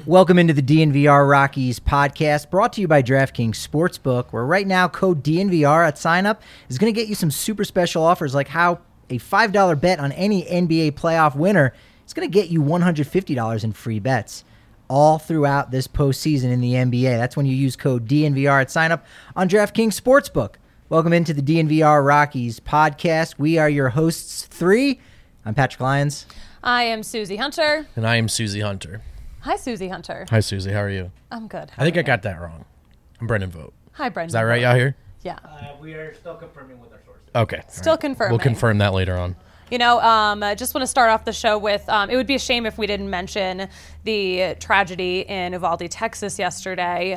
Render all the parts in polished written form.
Welcome into the DNVR Rockies podcast, brought to you by DraftKings Sportsbook, where right now code DNVR at sign-up is going to get you some super special offers, like how a $5 bet on any NBA playoff winner is going to get you $150 in free bets all throughout this postseason in the NBA. That's when you use code DNVR at sign-up on DraftKings Sportsbook. Welcome into the DNVR Rockies podcast. We are your hosts three. I'm Patrick Lyons. I am Susie Hunter. And I am Susie Hunter. Hi, Susie Hunter. Hi, Susie. How are you? I'm good. I think I got that wrong. I'm Brendan Vogt. Hi, Brendan. Is that right, y'all here? Yeah. We are still confirming with our sources. Okay. Still right. confirming. We'll confirm that later on. You know, I just want to start off the show with, it would be a shame if we didn't mention the tragedy in Uvalde, Texas yesterday.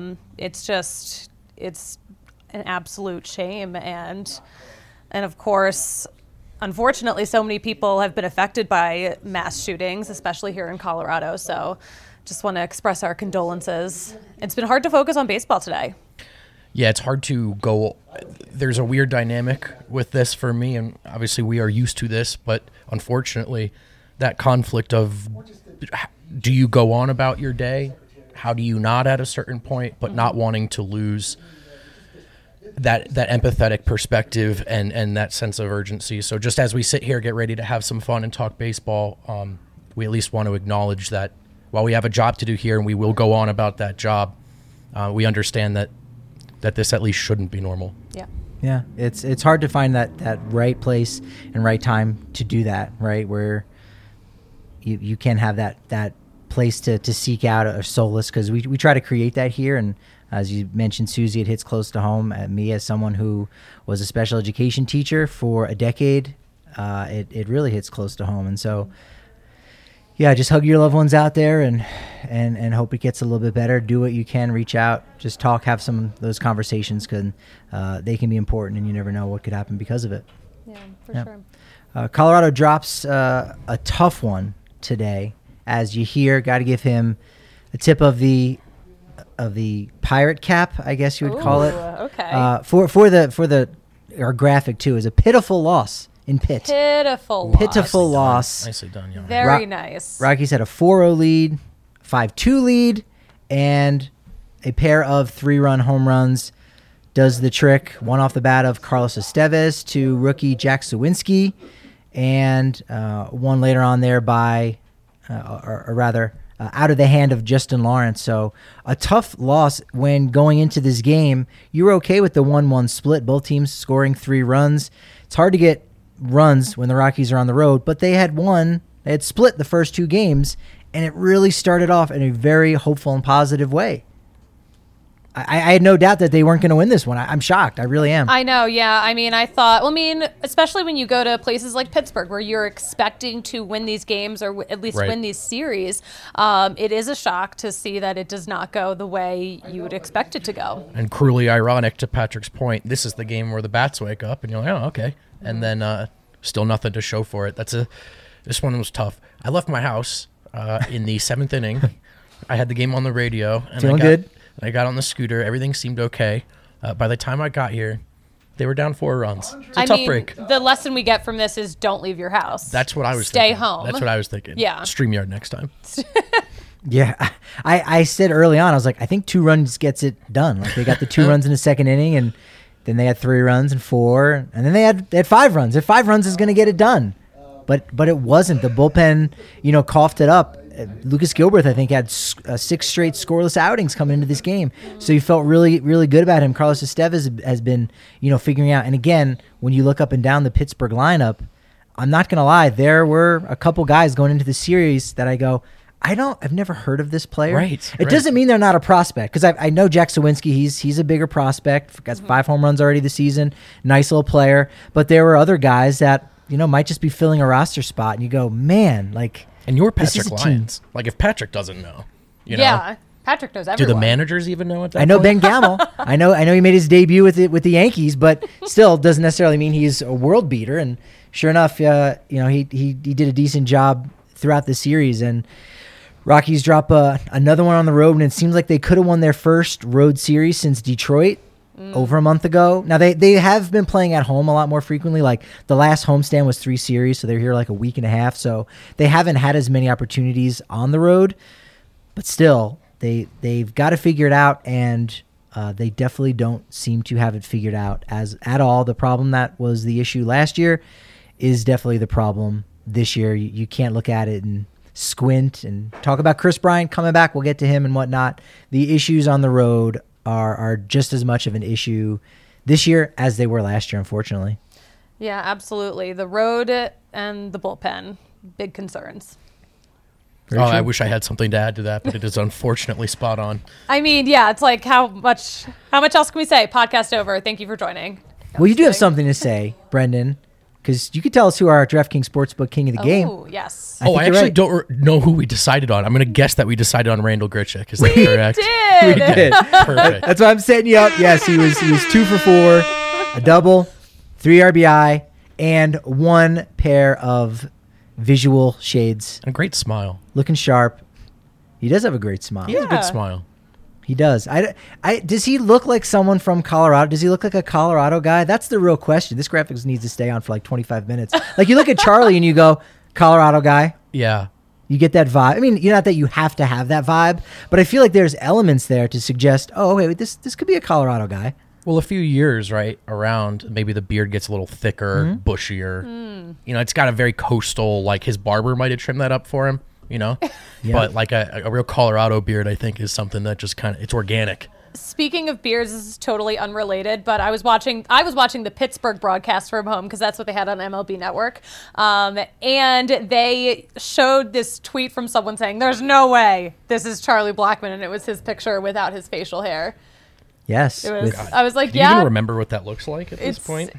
It's an absolute shame. And of course, unfortunately, so many people have been affected by mass shootings, especially here in Colorado. So just want to express our condolences. It's been hard to focus on baseball today. Yeah, it's hard to go. There's a weird dynamic with this for me, and obviously we are used to this, but unfortunately, that conflict of do you go on about your day? How do you not at a certain point, but not wanting to lose that empathetic perspective and that sense of urgency. So just as we sit here, get ready to have some fun and talk baseball, we at least want to acknowledge that while we have a job to do here and we will go on about that job, we understand that this at least shouldn't be normal. Yeah. Yeah, it's hard to find that right place and right time to do that, right? Where you can have that place to seek out a solace, because we try to create that here. And as you mentioned, Susie, it hits close to home. Me, as someone who was a special education teacher for a decade, it really hits close to home. And so, yeah, just hug your loved ones out there and hope it gets a little bit better. Do what you can, reach out, just talk, have some of those conversations, because they can be important, and you never know what could happen because of it. Yeah, for sure. Colorado drops a tough one today, as you hear. Got to give him a tip of the pirate cap, I guess you would call it. Okay. For our graphic too, is a pitiful loss in Pitt. Pitiful loss. Nicely done, young. Very nice. Rockies had a 4-0 lead, 5-2 lead, and a pair of 3-run home runs does the trick. One off the bat of Carlos Estevez to rookie Jack Suwinski, and one later on there by, out of the hand of Justin Lawrence. So a tough loss when going into this game. You were okay with the 1-1 split, both teams scoring 3 runs. It's hard to get runs when the Rockies are on the road, but they had split the first 2 games, and it really started off in a very hopeful and positive way. I had no doubt that they weren't going to win this one. I'm shocked. I really am. I know, yeah. I mean, especially when you go to places like Pittsburgh, where you're expecting to win these games, or at least win these series, it is a shock to see that it does not go the way you would expect it to go. And cruelly ironic, to Patrick's point, this is the game where the bats wake up, and you're like, oh, okay. And then still nothing to show for it. This one was tough. I left my house in the 7th inning. I had the game on the radio. And Feeling good? I got on the scooter. Everything seemed okay. By the time I got here, they were down 4 runs. It's a tough break. The lesson we get from this is don't leave your house. That's what I was thinking. Stay home. That's what I was thinking. Yeah. StreamYard next time. Yeah. I said early on, I was like, I think 2 runs gets it done. Like, they got the 2 runs in the 2nd inning, and then they had 3 runs and 4, and then they had 5 runs. If 5 runs is going to get it done. But it wasn't. The bullpen, coughed it up. Lucas Gilbert, I think, had 6 straight scoreless outings coming into this game. So you felt really, really good about him. Carlos Estevez has been, figuring out. And again, when you look up and down the Pittsburgh lineup, I'm not going to lie, there were a couple guys going into the series that I go, I've never heard of this player. Right. It doesn't mean they're not a prospect, because I know Jack Suwinski, he's a bigger prospect. Got 5 home runs already this season. Nice little player. But there were other guys that, might just be filling a roster spot, and you go, man, like. And you're Patrick Lyons. Like, if Patrick doesn't know, Yeah, Patrick knows everyone. Do the managers even know at that I know point? Ben Gamel. I know he made his debut with the Yankees, but still doesn't necessarily mean he's a world beater. And sure enough, he did a decent job throughout the series. And Rockies drop another one on the road, and it seems like they could have won their first road series since Detroit over a month ago. Now, they have been playing at home a lot more frequently. Like, the last homestand was 3 series, so they're here like a week and a half. So they haven't had as many opportunities on the road. but still, they've got to figure it out, and they definitely don't seem to have it figured out at all. The problem that was the issue last year is definitely the problem this year. You can't look at it and squint and talk about Chris Bryant coming back. We'll get to him and whatnot. The issues on the road are just as much of an issue this year as they were last year, unfortunately. Yeah, absolutely. The road and the bullpen, big concerns. Oh, I wish I had something to add to that, but it is unfortunately spot on. I mean, yeah, it's like how much else can we say? Podcast over. Thank you for joining. Well, you do have something to say, Brendan, because you could tell us who our DraftKings Sportsbook King of the Game. Oh, yes. I think I you're actually right. don't know who we decided on. I'm going to guess that we decided on Randall Grichuk. Is that correct? Did. We did. Perfect. That's why I'm setting you up. Yes, he was 2 for 4, a double, 3 RBI, and 1 pair of visual shades. A great smile. Looking sharp. He does have a great smile. He has a Yeah. good smile. He does. Does he look like someone from Colorado? Does he look like a Colorado guy? That's the real question. This graphics needs to stay on for like 25 minutes. Like you look at Charlie and you go, Colorado guy. Yeah. You get that vibe. I mean, not that you have to have that vibe, but I feel like there's elements there to suggest, oh, wait, this could be a Colorado guy. Well, a few years, right, around, maybe the beard gets a little thicker, bushier. You know, it's got a very coastal, like his barber might have trimmed that up for him, you know? Yeah. But like a real Colorado beard, I think, is something that just kind of, it's organic. Speaking of beards, this is totally unrelated, but I was watching the Pittsburgh broadcast from home because that's what they had on MLB Network, and they showed this tweet from someone saying, "There's no way this is Charlie Blackmon," and it was his picture without his facial hair. Yes. It was. with- I was like, Do you "Yeah." even remember what that looks like at this point?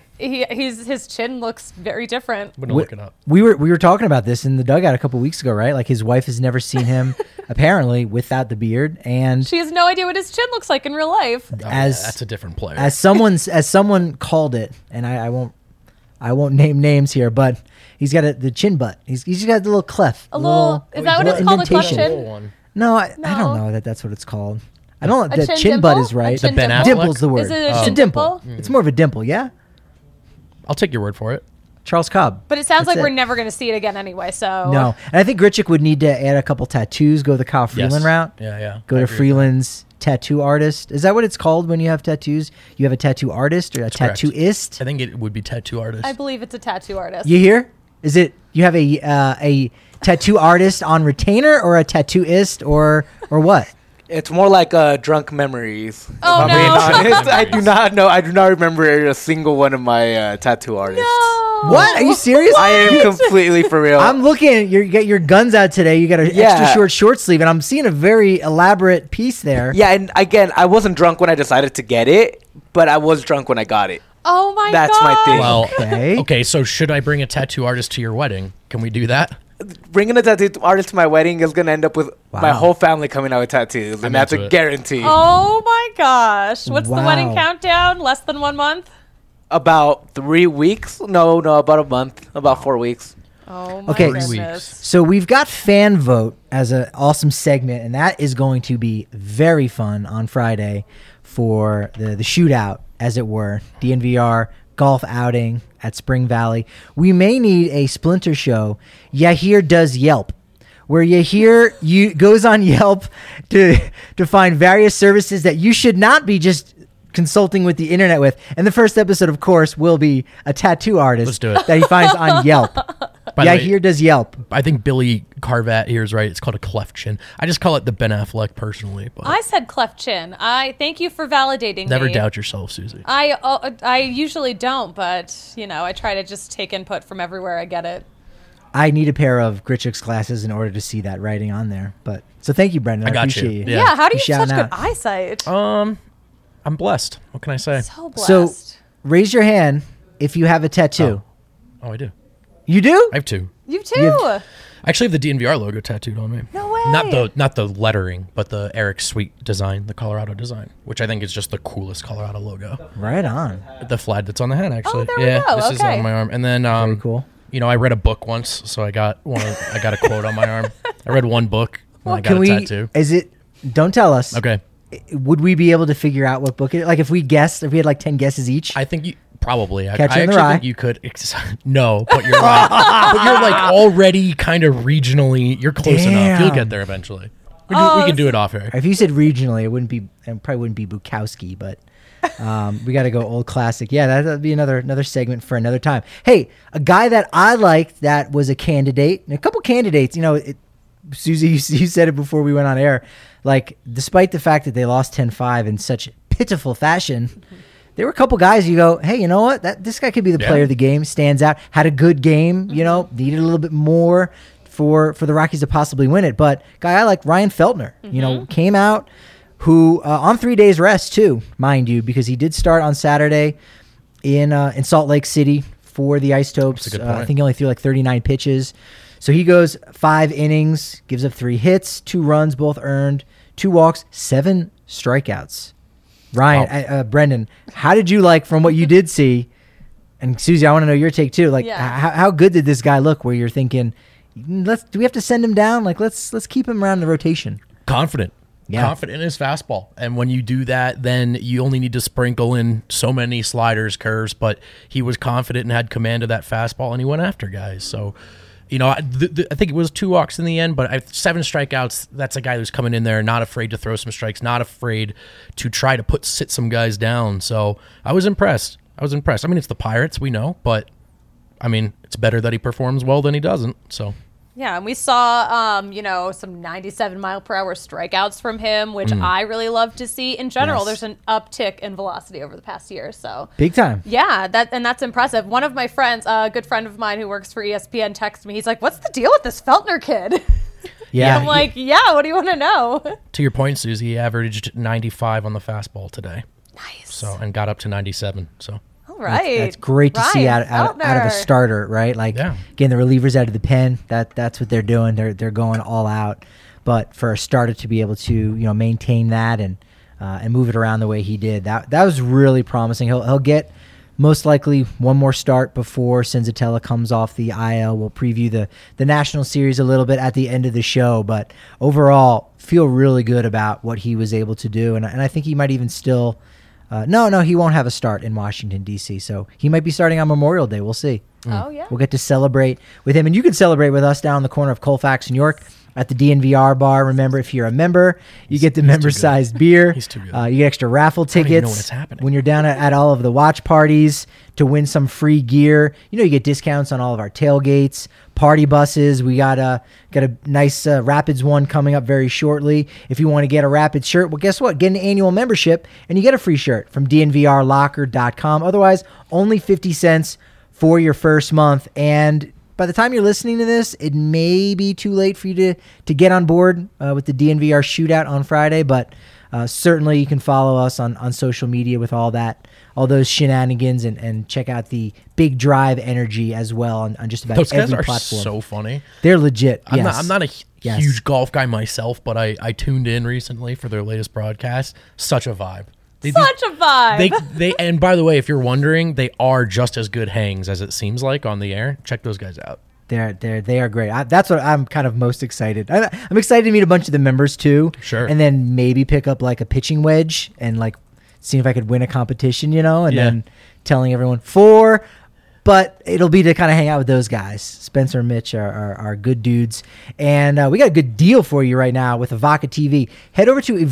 His chin looks very different. I'm going to look it up. we were talking about this in the dugout a couple weeks ago, right? Like his wife has never seen him apparently without the beard, and She has no idea what his chin looks like in real life. Oh, yeah, as that's a different player. as someone called it, and I won't name names here, but he's got the chin butt. He's just got the little cleft. A little. Is that what it's called? A cleft indentation. chin? Little one. No, I No. don't know that's what it's called. I don't know. A The chin chin butt dimple? is right. A chin Ben dimple? Affleck? Dimple's the word. Is it a It's a chin dimple. dimple? It's more of a dimple, yeah? I'll take your word for it. Charles Cobb. But it sounds That's like we're it. never going to see it again anyway. So No. And I think Grichuk would need to add a couple tattoos, go the Kyle Freeland Yes. route. Yeah. Go I to agree with Freeland's tattoo artist. Is that what it's called when you have tattoos? You have a tattoo artist or a correct. tattooist? that. I think it would be tattoo artist. I believe it's a tattoo artist. You hear? Is it you have a tattoo artist on retainer or a tattooist or what? It's more like drunk memories. Oh, if I'm no. being honest, I do not know. I do not remember a single one of my tattoo artists. No. What? Are you serious? I am completely for real. I'm looking. You got your guns out today. You got an Yeah. extra short sleeve, and I'm seeing a very elaborate piece there. Yeah, and again, I wasn't drunk when I decided to get it, but I was drunk when I got it. Oh my god. That's my thing. Well, Okay. okay, so should I bring a tattoo artist to your wedding? Can we do that? Bringing a tattoo artist to my wedding is gonna end up with my Wow. whole family coming out with tattoos, I'm and that's into a it. guarantee. Oh my gosh. What's the wedding Wow. countdown? Less than 1 month? About 3 weeks? No, about a month. About 4 weeks. Oh my Okay. 3 goodness. weeks. So we've got fan vote as an awesome segment, and that is going to be very fun on Friday for the shootout, as it were, DNVR golf outing at Spring Valley. We may need a splinter show. Yahir does Yelp, where Yahir goes on Yelp to find various services that you should not be just consulting with the internet with. And the first episode, of course, will be a tattoo artist Let's do it. that he finds on Yelp. By the way, Yahir does Yelp. I think Billy Carvat here is right. It's called a cleft chin. I just call it the Ben Affleck personally, but I said cleft chin. I thank you for validating never me. doubt yourself, Susie. I usually don't, but I try to just take input from everywhere I get it. I need a pair of Grichuk's glasses in order to see that writing on there. But so thank you, Brendan. I I got appreciate you. you. Yeah. How do You you have such shouting good out. eyesight? I'm blessed. What can I say? So blessed. So raise your hand if you have a tattoo. Oh, I do. You do? I have two. you too. you I actually have the DNVR logo tattooed on me. No way. Not the lettering, but the Eric Sweet design, the Colorado design, which I think is just the coolest Colorado logo. Right on. The flag that's on the hat, actually. there we yeah, go. this is Okay. on my arm. And then Very cool. You know, I read a book once, so I got a quote on my arm. I read one book, and I got Can a we? tattoo. Is it? Don't tell us. Okay. Would we be able to figure out what book it is? Like if we guessed, if we had like 10 guesses each? I think you probably. I Catcher in the actually Rye? think you could. No, but you're right. But you're like already kind of regionally. You're close enough. You'll Damn. get there eventually. We can do it off air. If you said regionally, it probably wouldn't be Bukowski, but we got to go old classic. Yeah, that'd be another segment for another time. Hey, a guy that I liked that was a candidate, and a couple candidates. Susie, you said it before we went on air. Like, despite the fact that they lost 10-5 in such pitiful fashion, there were a couple guys you go, hey, you know what? This guy could be the player of the game. Stands out. Had a good game. Needed a little bit more for the Rockies to possibly win it. But guy I like, Ryan Feltner, came out, who on 3 days rest too, mind you, because he did start on Saturday in Salt Lake City for the Isotopes. I think he only threw like 39 pitches. So he goes 5 innings, gives up 3 hits, 2 runs, both earned, 2 walks, 7 strikeouts. Ryan, Brendan, how did you like from what you did see? And Susie, I want to know your take too. Like, how good did this guy look? Where you're thinking, do we have to send him down? Like, let's keep him around the rotation. Confident in his fastball, and when you do that, then you only need to sprinkle in so many sliders, curves. But he was confident and had command of that fastball, and he went after guys. So. I think it was 2 walks in the end, but 7 strikeouts. That's a guy who's coming in there, not afraid to throw some strikes, not afraid to try to sit some guys down. So I was impressed. I mean, it's the Pirates, we know, but I mean, it's better that he performs well than he doesn't. So. Yeah, and we saw, some 97-mile-per-hour strikeouts from him, which I really love to see. In general, there's an uptick in velocity over the past year, so big time. Yeah, that's impressive. One of my friends, a good friend of mine who works for ESPN, texted me. He's like, "What's the deal with this Feltner kid?" Yeah, I'm like, "Yeah, what do you want to know?" To your point, Susie, he averaged 95 on the fastball today. Nice. So and got up to 97. So. Right. That's great to see out of a starter, right? Like, getting the relievers out of the pen. That's what they're doing. They're going all out. But for a starter to be able to maintain that and move it around the way he did, that was really promising. He'll get most likely one more start before Senzatella comes off the IL. We'll preview the National Series a little bit at the end of the show, but overall feel really good about what he was able to do, and I think he might even still. No, he won't have a start in Washington, D.C., so he might be starting on Memorial Day. We'll see. Oh, yeah. We'll get to celebrate with him, and you can celebrate with us down the corner of Colfax, New York, at the DNVR bar. Remember, if you're a member, you get the member-sized beer. He's too good. You get extra raffle tickets. I don't even know what's happening. When you're down at all of the watch parties to win some free gear. You get discounts on all of our tailgates, party buses. We got a nice Rapids one coming up very shortly. If you want to get a Rapids shirt, well, guess what? Get an annual membership, and you get a free shirt from DNVRlocker.com. Otherwise, only 50 cents for your first month. And by the time you're listening to this, it may be too late for you to get on board with the DNVR shootout on Friday, but certainly you can follow us on social media with all those shenanigans and check out the Big Drive Energy as well on just about those every guys are platform. So funny. They're legit. I'm not a huge golf guy myself, but I tuned in recently for their latest broadcast. Such a vibe. Such a vibe. They and by the way, if you're wondering, they are just as good hangs as it seems like on the air. Check those guys out. They are great. That's what I'm kind of most excited. I'm excited to meet a bunch of the members too. Sure. And then maybe pick up like a pitching wedge and like seeing if I could win a competition, and then telling everyone but it'll be to kind of hang out with those guys. Spencer and Mitch are good dudes. And we got a good deal for you right now with Evoca TV. Head over to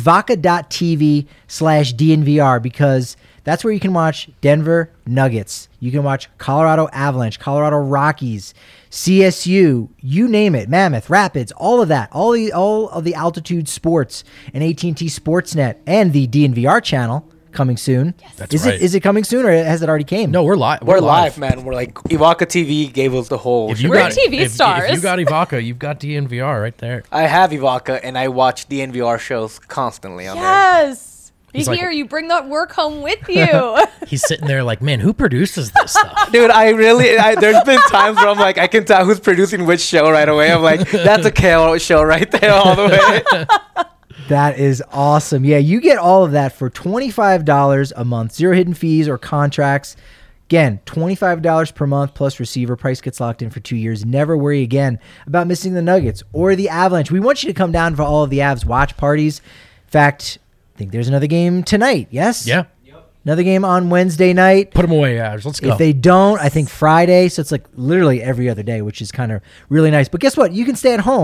evoca.tv/DNVR because that's where you can watch Denver Nuggets. You can watch Colorado Avalanche, Colorado Rockies, CSU, you name it, Mammoth, Rapids, all of that, all of the altitude sports and AT&T Sportsnet and the DNVR channel. Coming soon. Yes. That's right. Is it coming soon or has it already came? No, we're live. We're live, man. We're like Evoca TV gave us the whole. We're TV stars. If you got Evoca, you've got DNVR right there. I have Evoca and I watch DNVR shows constantly on there. Yes. You bring that work home with you. He's sitting there like, man, who produces this stuff? Dude, there's been times where I'm like, I can tell who's producing which show right away. I'm like, that's a KO show right there all the way. That is awesome. Yeah, you get all of that for $25 a month. Zero hidden fees or contracts. Again, $25 per month plus receiver. Price gets locked in for 2 years. Never worry again about missing the Nuggets or the Avalanche. We want you to come down for all of the Avs watch parties. In fact, I think there's another game tonight, yes? Yeah. Another game on Wednesday night. Put them away, Avs. Let's go. If they don't, I think Friday. So it's like literally every other day, which is kind of really nice. But guess what? You can stay at home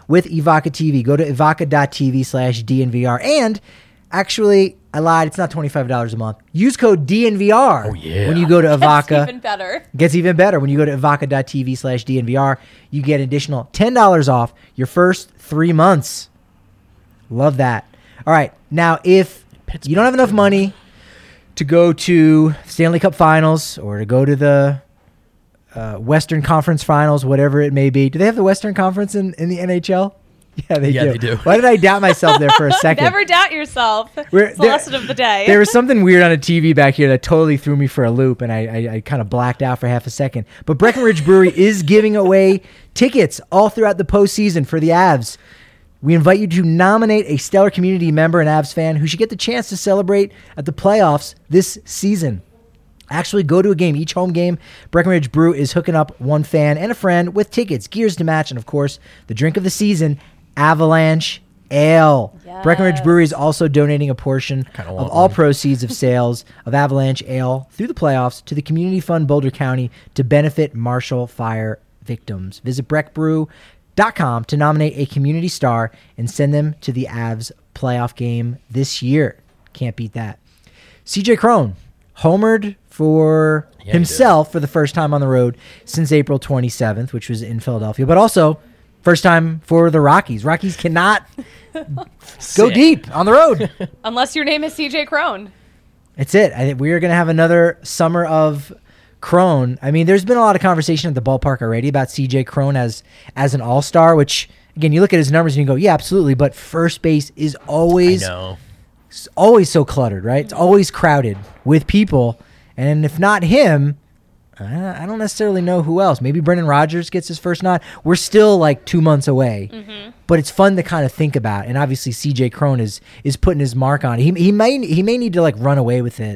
with Evoca TV. Go to evoca.tv/DNVR. And actually, I lied. It's not $25 a month. Use code DNVR when you go to Evoca. That's even better. Gets even better when you go to evoca.tv/DNVR. You get an additional $10 off your first 3 months. Love that. All right. Now, if you don't have enough money to go to Stanley Cup Finals or to go to the Western Conference Finals, whatever it may be. Do they have the Western Conference in the NHL? Yeah, they do. Why did I doubt myself there for a second? Never doubt yourself. It's the lesson of the day. There was something weird on a TV back here that totally threw me for a loop, and I kind of blacked out for half a second. But Breckenridge Brewery is giving away tickets all throughout the postseason for the Avs. We invite you to nominate a stellar community member and Avs fan who should get the chance to celebrate at the playoffs this season. Actually, go to a game. Each home game, Breckenridge Brew is hooking up one fan and a friend with tickets, gears to match, and, of course, the drink of the season, Avalanche Ale. Yes. Breckenridge Brewery is also donating a portion of all proceeds of sales of Avalanche Ale through the playoffs to the Community Fund Boulder County to benefit Marshall Fire victims. Visit breckbrew.com to nominate a community star and send them to the Avs playoff game this year. Can't beat that. CJ Cron homered for himself for the first time on the road since April 27th, which was in Philadelphia, but also first time for the Rockies. Rockies cannot go deep on the road. Unless your name is CJ Cron. That's it. I think we are going to have another summer of Cron. I mean, there's been a lot of conversation at the ballpark already about CJ Cron as an all-star, which, again, you look at his numbers and you go, yeah, absolutely, but first base is always so cluttered, right? It's always crowded with people, and if not him, I don't necessarily know who else. Maybe Brendan Rodgers gets his first nod. We're still like 2 months away, but it's fun to kind of think about. And obviously, CJ Cron is putting his mark on it. He may need to like run away with it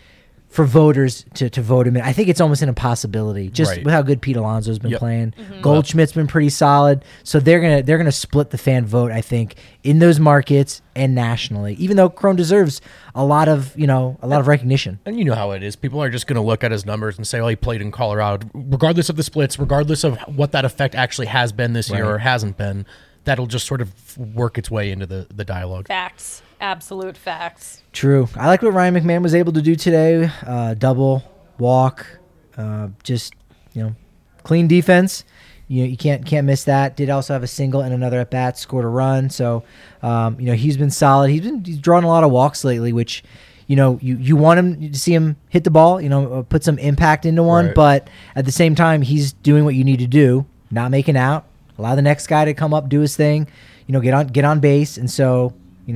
for voters to vote him in. I think it's almost an impossibility, just with how good Pete Alonso's been playing. Goldschmidt's been pretty solid, so they're gonna split the fan vote, I think, in those markets and nationally. Even though Cron deserves a lot of recognition. And you know how it is. People are just going to look at his numbers and say, "Oh, he played in Colorado." Regardless of the splits, regardless of what that effect actually has been this year or hasn't been, that'll just sort of work its way into the dialogue. Facts. Absolute facts. True. I like what Ryan McMahon was able to do today. Double, walk, just, clean defense. You can't miss that. Did also have a single and another at bat, scored a run. So, he's been solid. He's drawn a lot of walks lately, which, you want him to see him hit the ball, put some impact into one. Right. But at the same time, he's doing what you need to do, not making out, allow the next guy to come up, do his thing, get on base. And so,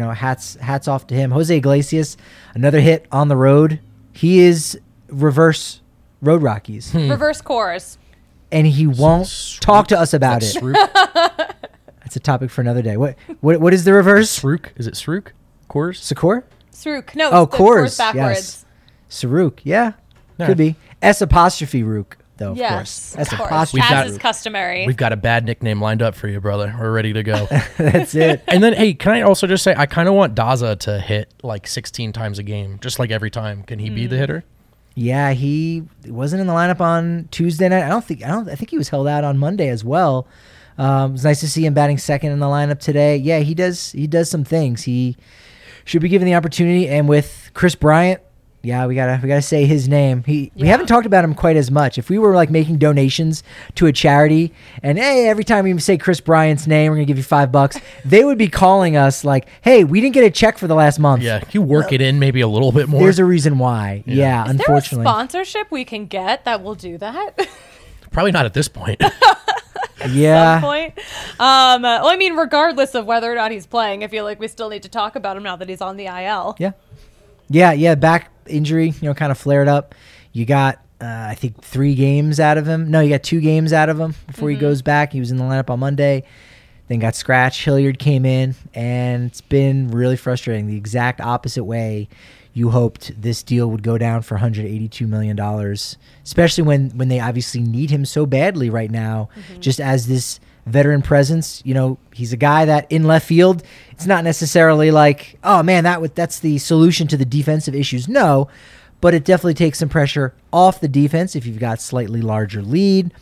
hats off to him. Jose Iglesias, another hit on the road. He is reverse Road Rockies. Reverse chorus. And he won't talk to us about it. That's a topic for another day. What is the reverse? Srook. Is it Srook? Kors? Sakor? Srook. No, oh, it's Kors. backwards. Yes. Saruk. Yeah. Could be. S apostrophe Rook. Though, yes, of course. As is customary. We've got a bad nickname lined up for you, brother. We're ready to go. That's it. And then, hey, can I also just say, I kind of want Daza to hit like 16 times a game, just like every time. Can he be the hitter? Yeah, he wasn't in the lineup on Tuesday night. I think he was held out on Monday as well. It was nice to see him batting second in the lineup today. Yeah, he does some things. He should be given the opportunity. And with Chris Bryant, yeah, we gotta say his name. We haven't talked about him quite as much. If we were like making donations to a charity, and hey, every time we say Chris Bryant's name, we're gonna give you $5, they would be calling us like, hey, we didn't get a check for the last month. Yeah, you work it in maybe a little bit more. There's a reason why. Yeah, unfortunately. Is there a sponsorship we can get that will do that? Probably not at this point. Yeah. At some point. Well, I mean, regardless of whether or not he's playing, I feel like we still need to talk about him now that he's on the IL. Yeah. Back injury, kind of flared up. You got, I think, 3 games out of him. No, you got 2 games out of him before he goes back. He was in the lineup on Monday, then got scratched. Hilliard came in, and it's been really frustrating. The exact opposite way you hoped this deal would go down for $182 million, especially when they obviously need him so badly right now, just as this veteran presence. He's a guy that in left field, it's not necessarily like, oh man, that's the solution to the defensive issues. No, but it definitely takes some pressure off the defense if you've got slightly larger lead.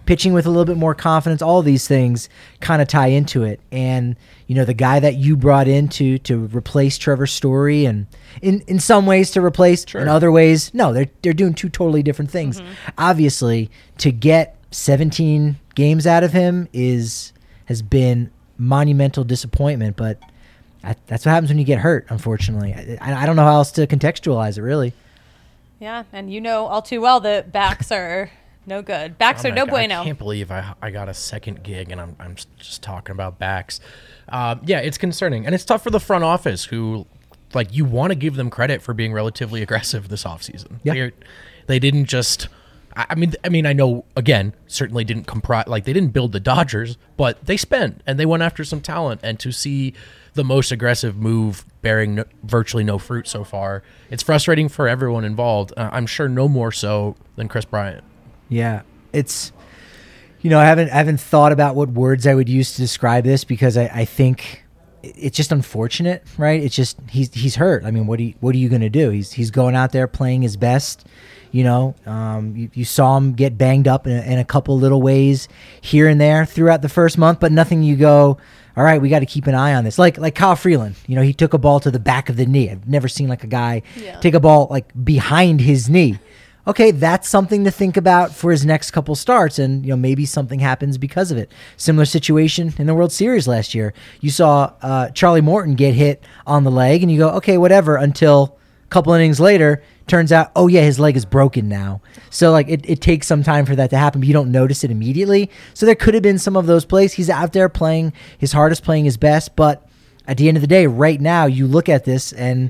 pitching with a little bit more confidence. All these things kind of tie into it. And, the guy that you brought in to replace Trevor Story, and in some ways to replace, in other ways, no, they're doing two totally different things. Obviously, to get 17 games out of him has been monumental disappointment, but that's what happens when you get hurt, unfortunately. I don't know how else to contextualize it, really. Yeah, and all too well that backs are no good. Backs are no bueno. I can't believe I got a second gig and I'm just talking about backs. Yeah, it's concerning. And it's tough for the front office who, you want to give them credit for being relatively aggressive this offseason. Yeah. They didn't just... I mean, I know, again, certainly didn't they didn't build the Dodgers, but they spent and they went after some talent. And to see the most aggressive move bearing virtually no fruit so far, it's frustrating for everyone involved. I'm sure no more so than Chris Bryant. Yeah, it's, I haven't thought about what words I would use to describe this, because I think it's just unfortunate, right? It's just, he's hurt. I mean, what are you going to do? He's going out there playing his best. You saw him get banged up in a couple little ways here and there throughout the first month, but nothing you go, all right, we got to keep an eye on this. Like Kyle Freeland, he took a ball to the back of the knee. I've never seen a guy take a ball behind his knee. Okay, that's something to think about for his next couple starts, and maybe something happens because of it. Similar situation in the World Series last year. You saw Charlie Morton get hit on the leg, and you go, okay, whatever, until a couple innings later, turns out, oh yeah, his leg is broken now. So it takes some time for that to happen, but you don't notice it immediately. So there could have been some of those plays. He's out there playing his hardest, playing his best, but at the end of the day, right now, you look at this and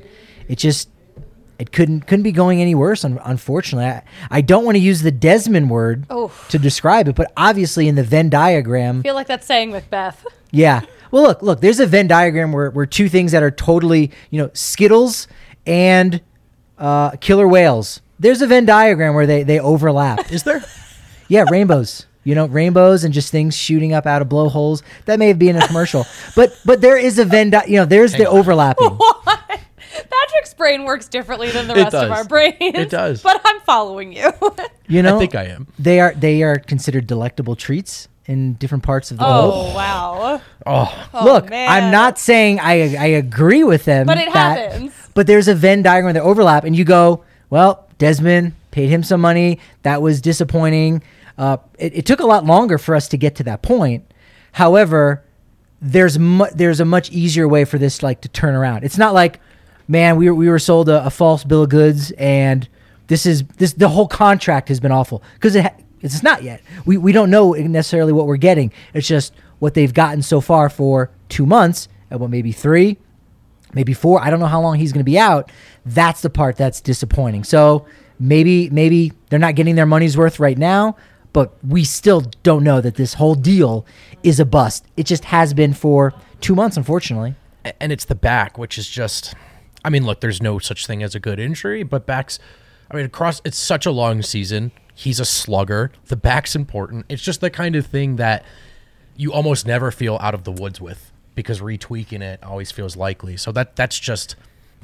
it couldn't be going any worse, unfortunately. I don't want to use the Desmond word to describe it, but obviously in the Venn diagram... I feel like that's saying Macbeth. Yeah. Well, look, there's a Venn diagram where two things that are totally, Skittles and killer whales. There's a Venn diagram where they overlap. Is there? Yeah, rainbows. Rainbows and just things shooting up out of blowholes. That may have been a commercial. But there is a Venn diagram, there's the overlapping. What? Patrick's brain works differently than the rest of our brains. It does. But I'm following you. I think I am. They are considered delectable treats in different parts of the world. Oh, wow. Oh, look, man. I'm not saying I agree with them. But it happens. But there's a Venn diagram where they overlap, and you go, well, Desmond paid him some money. That was disappointing. It took a lot longer for us to get to that point. However, there's a much easier way for this to turn around. It's not like, man, we were sold a false bill of goods, and the whole contract has been awful, because it's not yet. We don't know necessarily what we're getting. It's just what they've gotten so far for 2 months, and maybe 3, maybe 4. I don't know how long he's going to be out. That's the part that's disappointing. So maybe they're not getting their money's worth right now, but we still don't know that this whole deal is a bust. It just has been for 2 months, unfortunately. And it's the back, which is just... I mean, look, there's no such thing as a good injury, but backs... it's such a long season. He's a slugger. The back's important. It's just the kind of thing that you almost never feel out of the woods with, because retweaking it always feels likely. So that's just...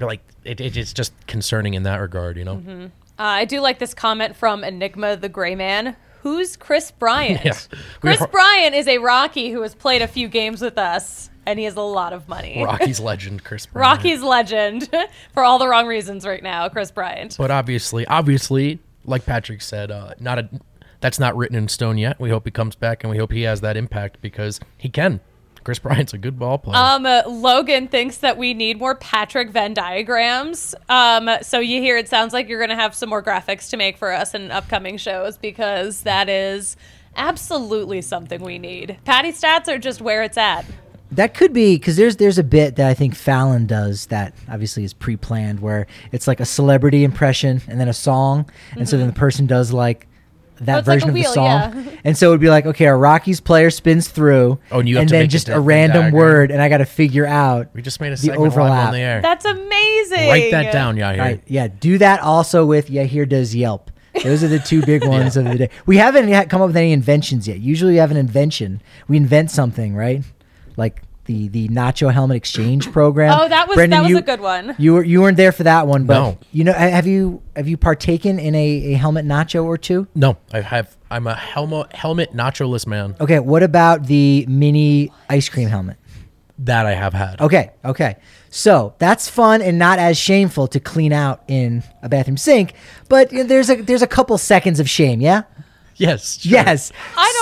it's just concerning in that regard, Mm-hmm. I do like this comment from Enigma the Gray Man. Who's Chris Bryant? Yeah. Chris Bryant is a Rocky who has played a few games with us, and he has a lot of money. Rocky's legend, Chris Bryant. Rocky's legend, for all the wrong reasons right now, Chris Bryant. But obviously, like Patrick said, that's not written in stone yet. We hope he comes back, and we hope he has that impact, because he can. Chris Bryant's a good ball player. Logan thinks that we need more Patrick Venn diagrams. So you hear it sounds like you're going to have some more graphics to make for us in upcoming shows, because that is absolutely something we need. Patty stats are just where it's at. That could be, because there's a bit that I think Fallon does that obviously is pre-planned, where it's like a celebrity impression and then a song, and so then the person does that version of the song. Yeah. And so it would be like, okay, a Rockies player spins through, and you have to then make just a a random diagram. word, and I got to figure out We just made a the segment live overlap. on the air. That's amazing. Write that down, Yahir. Right, yeah, do that also with Yahir does Yelp. Those are the two big ones of the day. We haven't yet come up with any inventions yet. Usually we have an invention. We invent something, right? Like the Nacho helmet exchange program. Oh, that was Brendan, a good one. You weren't there for that one, but No. have you partaken in a helmet nacho or two? No, I'm a helmet nacho-less man. Okay, what about the mini ice cream helmet? That I have had. Okay. So that's fun and not as shameful to clean out in a bathroom sink, but there's a couple seconds of shame, yeah? Yes. Sure. Yes.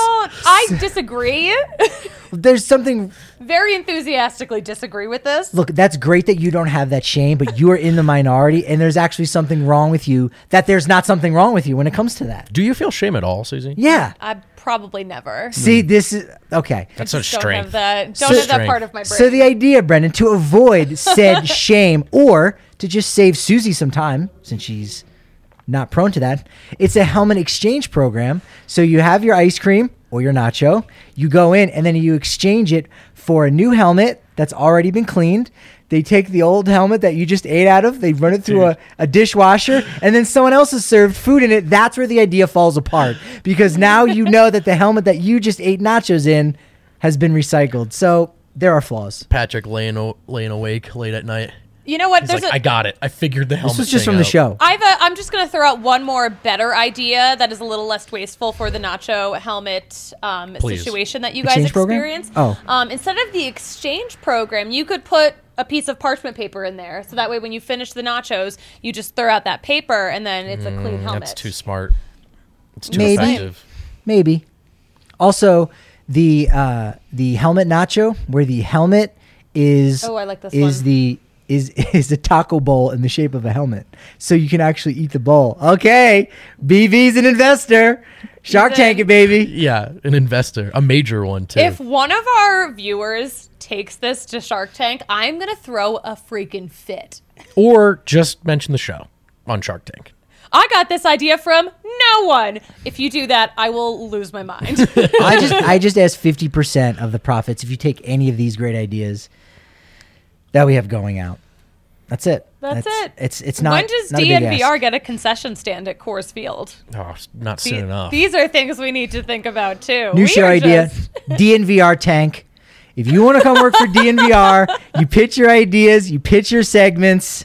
I disagree. There's something. Very enthusiastically disagree with this. Look, that's great that you don't have that shame, but you are in the minority, and there's actually something wrong with you. That there's not something wrong with you when it comes to that. Do you feel shame at all, Susie? Yeah. I probably never. See, this is okay. That's a Don't have strength. that part Strength. of my brain. So the idea, Brendan, to avoid said shame or to just save Susie some time, since she's not prone to that, it's a helmet exchange program. So you have your ice cream or your nacho, you go in and then you exchange it for a new helmet that's already been cleaned. They take the old helmet that you just ate out of, they run it through a dishwasher, and then someone else has served food in it. That's where the idea falls apart, because now you know that the helmet that you just ate nachos in has been recycled. So there are flaws. Patrick laying awake late at night. You know what? He's like, I got it. I figured the helmet. This was just thing from the out. show. I'm just going to throw out one more better idea that is a little less wasteful for the nacho helmet situation that you guys Exchange program? experience. Oh. Instead of the exchange program, you could put a piece of parchment paper in there. So that way when you finish the nachos, you just throw out that paper and then it's a clean helmet. That's too smart. It's too Maybe. effective. Maybe. Also, the helmet nacho, where the helmet is Oh, I like this is one. the is a taco bowl in the shape of a helmet, so you can actually eat the bowl. Okay, BV's an investor. Shark He's in. Tank it, baby. Yeah, an investor, a major one too. If one of our viewers takes this to Shark Tank, I'm going to throw a freaking fit. Or just mention the show on Shark Tank. I got this idea from no one. If you do that, I will lose my mind. I just asked 50% of the profits if you take any of these great ideas that we have going out. That's it. That's it. It's not. When does not a big DNVR ask. get a concession stand at Coors Field? Oh, not soon enough. These are things we need to think about too. New We show are idea, just- DNVR Tank. If you want to come work for DNVR, you pitch your ideas, you pitch your segments.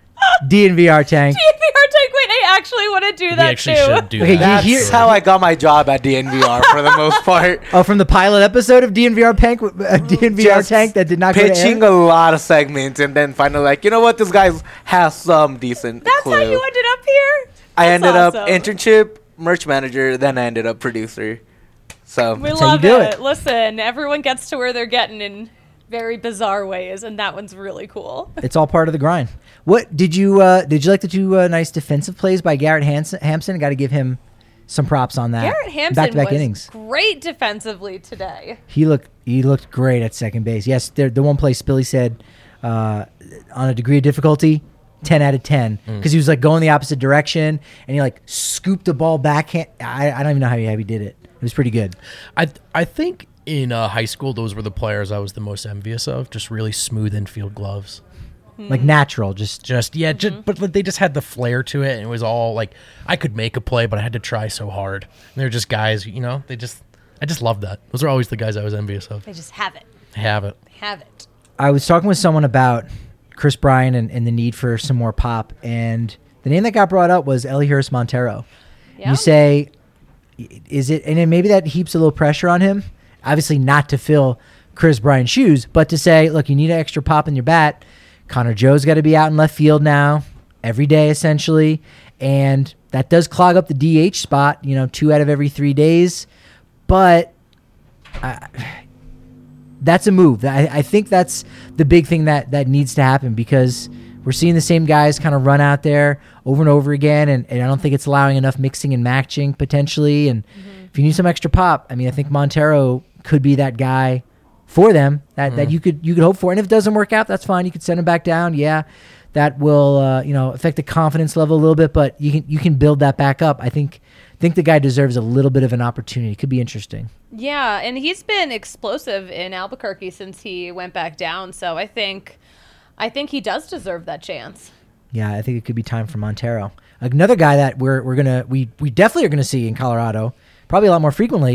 DNVR Tank. DNVR Tank. Wait, I actually want to do we that actually too. should do Okay, that. you That's hear- how I got my job at DNVR for the most part. Oh, from the pilot episode of DNVR Tank, DNVR Just Tank that did not go to pitching air? a lot of segments and then finally like, you know what, this guy has some decent That's clue. how you ended up here. I That's ended up awesome. internship, merch manager, then I ended up producer. So We how you love do it. it. Listen, everyone gets to where they're getting in very bizarre ways, and that one's really cool. It's all part of the grind. What did you like the two nice defensive plays by Garrett Hampson? Got to give him some props on that. Garrett Hampson back-to-back was innings. great defensively today. He looked great at second base. Yes, the one play Spilly said on a degree of difficulty, 10 out of 10, because he was like going the opposite direction and he like scooped the ball backhand. I don't even know how he did it. It was pretty good. I think in high school, those were the players I was the most envious of. Just really smooth infield gloves. Like natural, just But they just had the flair to it, and it was all like I could make a play, but I had to try so hard. And they're just guys, I just loved that. Those are always the guys I was envious of. They just have it. I have it. They have it. I was talking with someone about Chris Bryan and the need for some more pop, and the name that got brought up was Elihuris Montero. Yeah. You say, is it, and then maybe that heaps a little pressure on him, obviously not to fill Chris Bryan's shoes, but to say, look, you need an extra pop in your bat. Connor Joe's got to be out in left field now every day, essentially, and that does clog up the DH spot, 2 out of every 3 days, but that's a move. I think that's the big thing that needs to happen, because we're seeing the same guys kind of run out there over and over again, and I don't think it's allowing enough mixing and matching potentially. And if you need some extra pop, I think Montero could be that guy for them that you could hope for. And if it doesn't work out, that's fine. You could send him back down. Yeah, that will affect the confidence level a little bit, but you can build that back up. I think the guy deserves a little bit of an opportunity. Could be interesting. Yeah, and he's been explosive in Albuquerque since he went back down. So I think he does deserve that chance. Yeah, I think it could be time for Montero. Another guy that we definitely are gonna see in Colorado, probably a lot more frequently,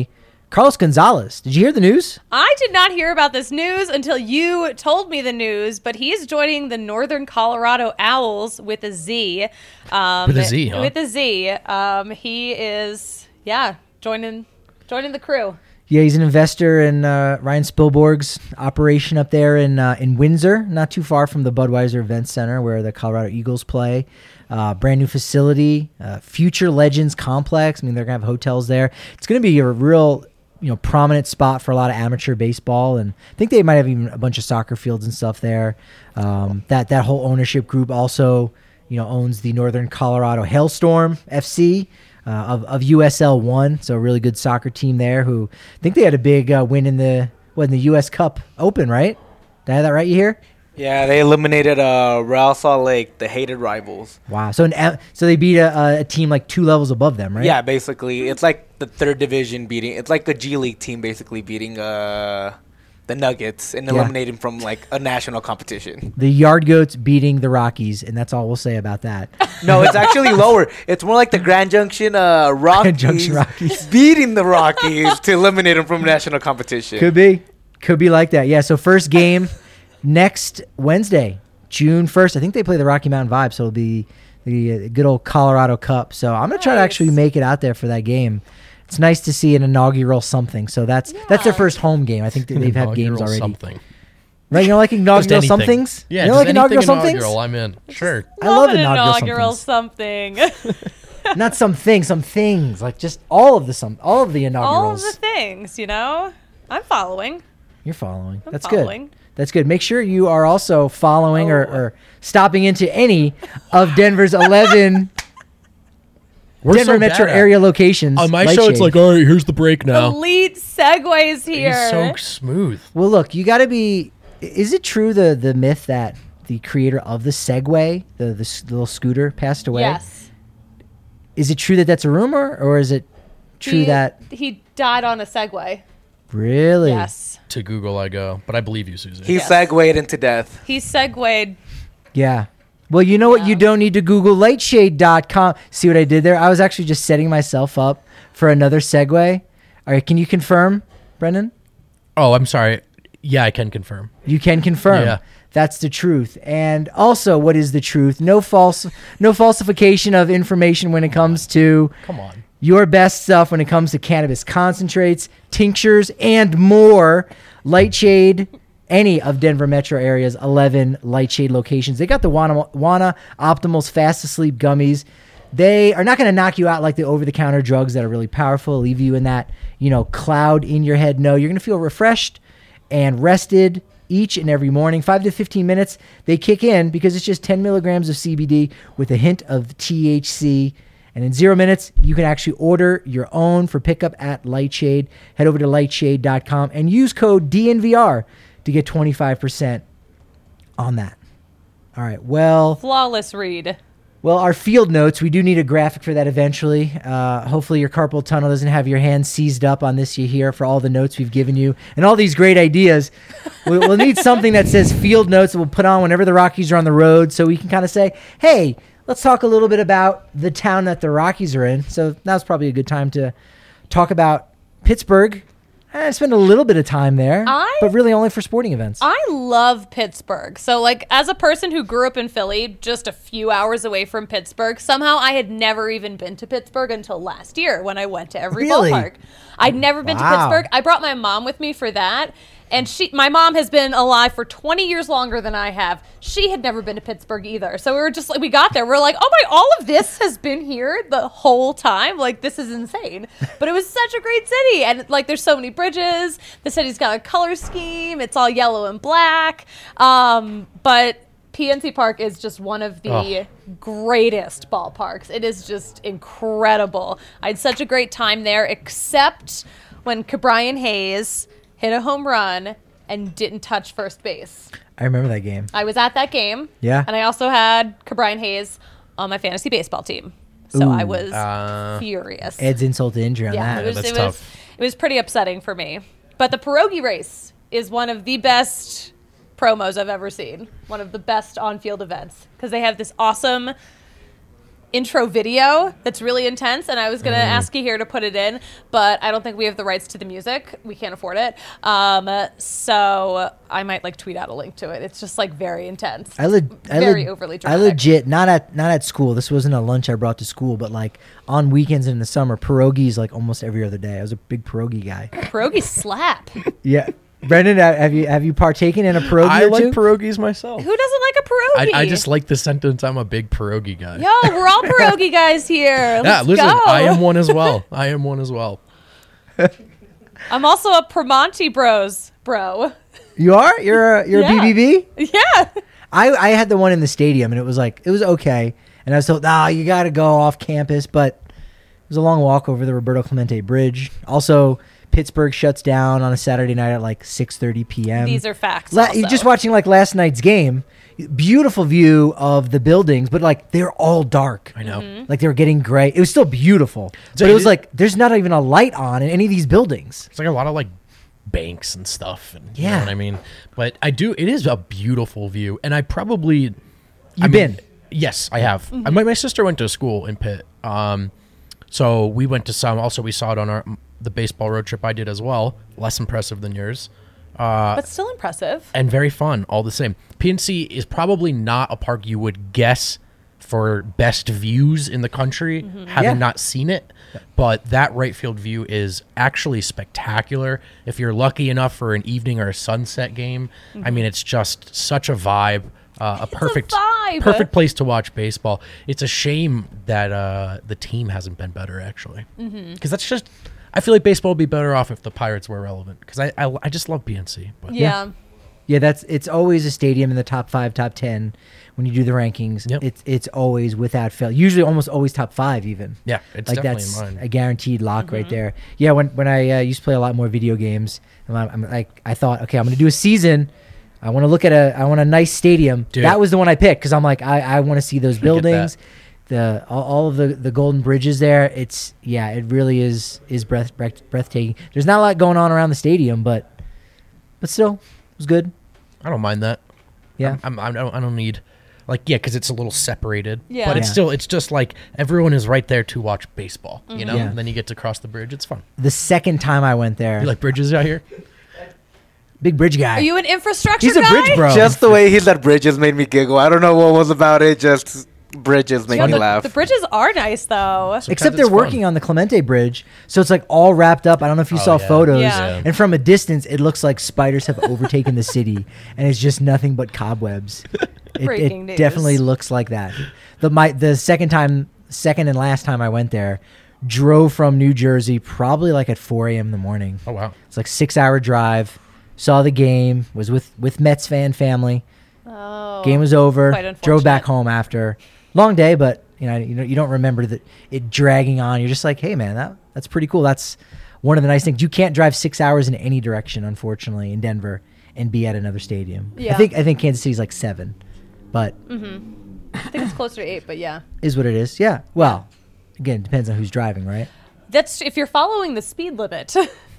Carlos Gonzalez. Did you hear the news? I did not hear about this news until you told me the news, but he's joining the Northern Colorado Owls with a Z. With a Z, huh? With a Z. He is, joining the crew. Yeah, he's an investor in Ryan Spielborg's operation up there in Windsor, not too far from the Budweiser Event Center where the Colorado Eagles play. Brand new facility, Future Legends Complex. I mean, they're going to have hotels there. It's going to be a real prominent spot for a lot of amateur baseball, and I think they might have even a bunch of soccer fields and stuff there. That whole ownership group also owns the Northern Colorado Hailstorm FC of USL 1, so a really good soccer team there. Who I think they had a big win in the US Cup Open, right? Did I have that right? You hear? Yeah, they eliminated Real Salt Lake, the hated rivals. Wow. So they beat a team like 2 levels above them, right? Yeah, basically. It's like the third division beating. It's like a G League team basically beating the Nuggets and eliminating from like a national competition. The Yard Goats beating the Rockies, and that's all we'll say about that. No, it's actually lower. It's more like the Grand Junction Rockies beating the Rockies to eliminate them from national competition. Could be like that. Yeah, so first game next Wednesday, June 1st. I think they play the Rocky Mountain Vibe, so it'll be the good old Colorado Cup. So I'm going to try to actually make it out there for that game. It's nice to see an inaugural something. So that's their first home game. I think they've had games already. Something. Right? You don't like inaugural somethings? Yeah, you don't like inaugural somethings? I'm in. Sure. I love inaugural something. Not some things. Like just all of the inaugurals. All of the things, I'm following. You're following. I'm That's following. good. That's good. Make sure you are also following or stopping into any of Denver's 11 Denver metro area locations. On my show, it's like, all right, here's the break now. Elite segues here. He's so smooth. Well, look, you got to be. Is it true the myth that the creator of the Segway, the little scooter, passed away? Yes. Is it true that that's a rumor, or is it true that he died on a Segway? Really? Yes. To Google I go, but I believe you, Susan. He segued into death. He segued. Yeah. Well, you know what? You don't need to Google lightshade.com. See what I did there? I was actually just setting myself up for another segue. All right. Can you confirm, Brendan? Oh, I'm sorry. Yeah, I can confirm. You can confirm. Yeah. That's the truth. And also, what is the truth? No falsification of information when it comes to your best stuff when it comes to cannabis concentrates, tinctures, and more. Lightshade, any of Denver metro area's 11 Lightshade locations. They got the Wana Optimal's Fast Asleep gummies. They are not going to knock you out like the over-the-counter drugs that are really powerful, leave you in that, cloud in your head. No, you're going to feel refreshed and rested each and every morning. 5 to 15 minutes, they kick in because it's just 10 milligrams of CBD with a hint of THC. And in 0 minutes, you can actually order your own for pickup at Lightshade. Head over to lightshade.com and use code DNVR to get 25% on that. All right, well. Flawless read. Well, our field notes, we do need a graphic for that eventually. Hopefully your carpal tunnel doesn't have your hand seized up on this year for all the notes we've given you and all these great ideas. We'll need something that says field notes that we'll put on whenever the Rockies are on the road so we can kind of say, hey, let's talk a little bit about the town that the Rockies are in. So now's probably a good time to talk about Pittsburgh. I spend a little bit of time there, but really only for sporting events. I love Pittsburgh. So, as a person who grew up in Philly, just a few hours away from Pittsburgh, somehow I had never even been to Pittsburgh until last year when I went to every ballpark. I'd never been to Pittsburgh. I brought my mom with me for that. And my mom has been alive for 20 years longer than I have. She had never been to Pittsburgh either. So we were just we got there. We're like, oh my, all of this has been here the whole time. This is insane. But it was such a great city. And there's so many bridges. The city's got a color scheme. It's all yellow and black. But PNC Park is just one of the greatest ballparks. It is just incredible. I had such a great time there, except when Ke'Bryan Hayes hit a home run and didn't touch first base. I remember that game. I was at that game. Yeah. And I also had Ke'Bryan Hayes on my fantasy baseball team. So I was furious. Ed's insult to injury on that. That's tough. It was pretty upsetting for me. But the pierogi race is one of the best promos I've ever seen. One of the best on-field events. Because they have this awesome intro video that's really intense, and I was going to ask you here to put it in, but I don't think we have the rights to the music. We can't afford it. So I might like tweet out a link to it. It's just like very intense. Very overly I dramatic. legit not at school. This wasn't a lunch I brought to school, but like on weekends in the summer, pierogies like almost every other day. I was a big pierogi guy. Pierogi slap. Yeah. Brendan, have you partaken in a pierogi I or like two? pierogies myself. Who doesn't like a pierogi? I just like the sentence, I'm a big pierogi guy. Yo, we're all pierogi guys here. Yeah, Let's listen, go. I am one as well. I'm also a Primanti Bros bro. You are? You're a Yeah. BBB? Yeah. I had the one in the stadium, and it was okay. And I was told, you got to go off campus, but it was a long walk over the Roberto Clemente Bridge. Also, Pittsburgh shuts down on a Saturday night at like 6:30 p.m. These are facts. You're just watching like last night's game. Beautiful view of the buildings, but like they're all dark. I know. Mm-hmm. Like they were getting gray. It was still beautiful, but it was like there's not even a light on in any of these buildings. It's like a lot of like banks and stuff. And you Yeah. know what I mean? But it is a beautiful view. And I probably... You've been? Yes, I have. Mm-hmm. My sister went to school in Pitt. So we went to some. Also, we saw it on the baseball road trip I did as well. Less impressive than yours. but still impressive. And very fun all the same. PNC is probably not a park you would guess for best views in the country, having Yeah. not seen it. But that right field view is actually spectacular. If you're lucky enough for an evening or a sunset game, I mean, it's just such a vibe. A perfect place to watch baseball. It's a shame that the team hasn't been better, actually. Because that's just... I feel like baseball would be better off if the Pirates were relevant. Because I just love PNC. But Yeah. Yeah, it's always a stadium in the top 5, top 10 when you do the rankings. Yep. It's always without fail. Usually almost always top 5 even. Yeah, it's like definitely that's in mine. a guaranteed lock right there. Yeah, when I used to play a lot more video games, and I'm like I thought, okay, I'm going to do a season. I want to look at I want a nice stadium. Dude. That was the one I picked because I'm like I want to see those buildings. that. All of the golden bridges there. It really is breathtaking. There's not a lot going on around the stadium, but still, it was good. I don't mind that. Yeah. I don't need, because it's a little separated. Yeah. But it's Yeah. still, it's just like everyone is right there to watch baseball, you know? Yeah. And then you get to cross the bridge. It's fun. The second time I went there, You like bridges out here? big bridge guy. Are you an infrastructure He's a guy? bridge bro. Just the way he said bridges made me giggle. I don't know what was about it. Just bridges make Yeah, me the, laugh. the bridges are nice though. Sometimes Except they're it's working fun. on the Clemente Bridge, so it's like all wrapped up. I don't know if you saw yeah. photos, Yeah. and from a distance, it looks like spiders have overtaken the city, and it's just nothing but cobwebs. Breaking It news. definitely looks like that. The second and last time I went there, drove from New Jersey probably like at 4 a.m. in the morning. Oh, wow. It's like 6-hour drive. Saw the game. Was with Mets fan family. Oh. Game was over. Quite Drove back unfortunate. home after long day, but you don't remember that it dragging on. You're just like, hey man, that's pretty cool. That's one of the nice things. You can't drive 6 hours in any direction, unfortunately, in Denver and be at another stadium. Yeah. I think Kansas City's like 7, but I think it's closer to 8, but yeah. is what it is. Yeah. Well, again, it depends on who's driving, right? That's if you're following the speed limit.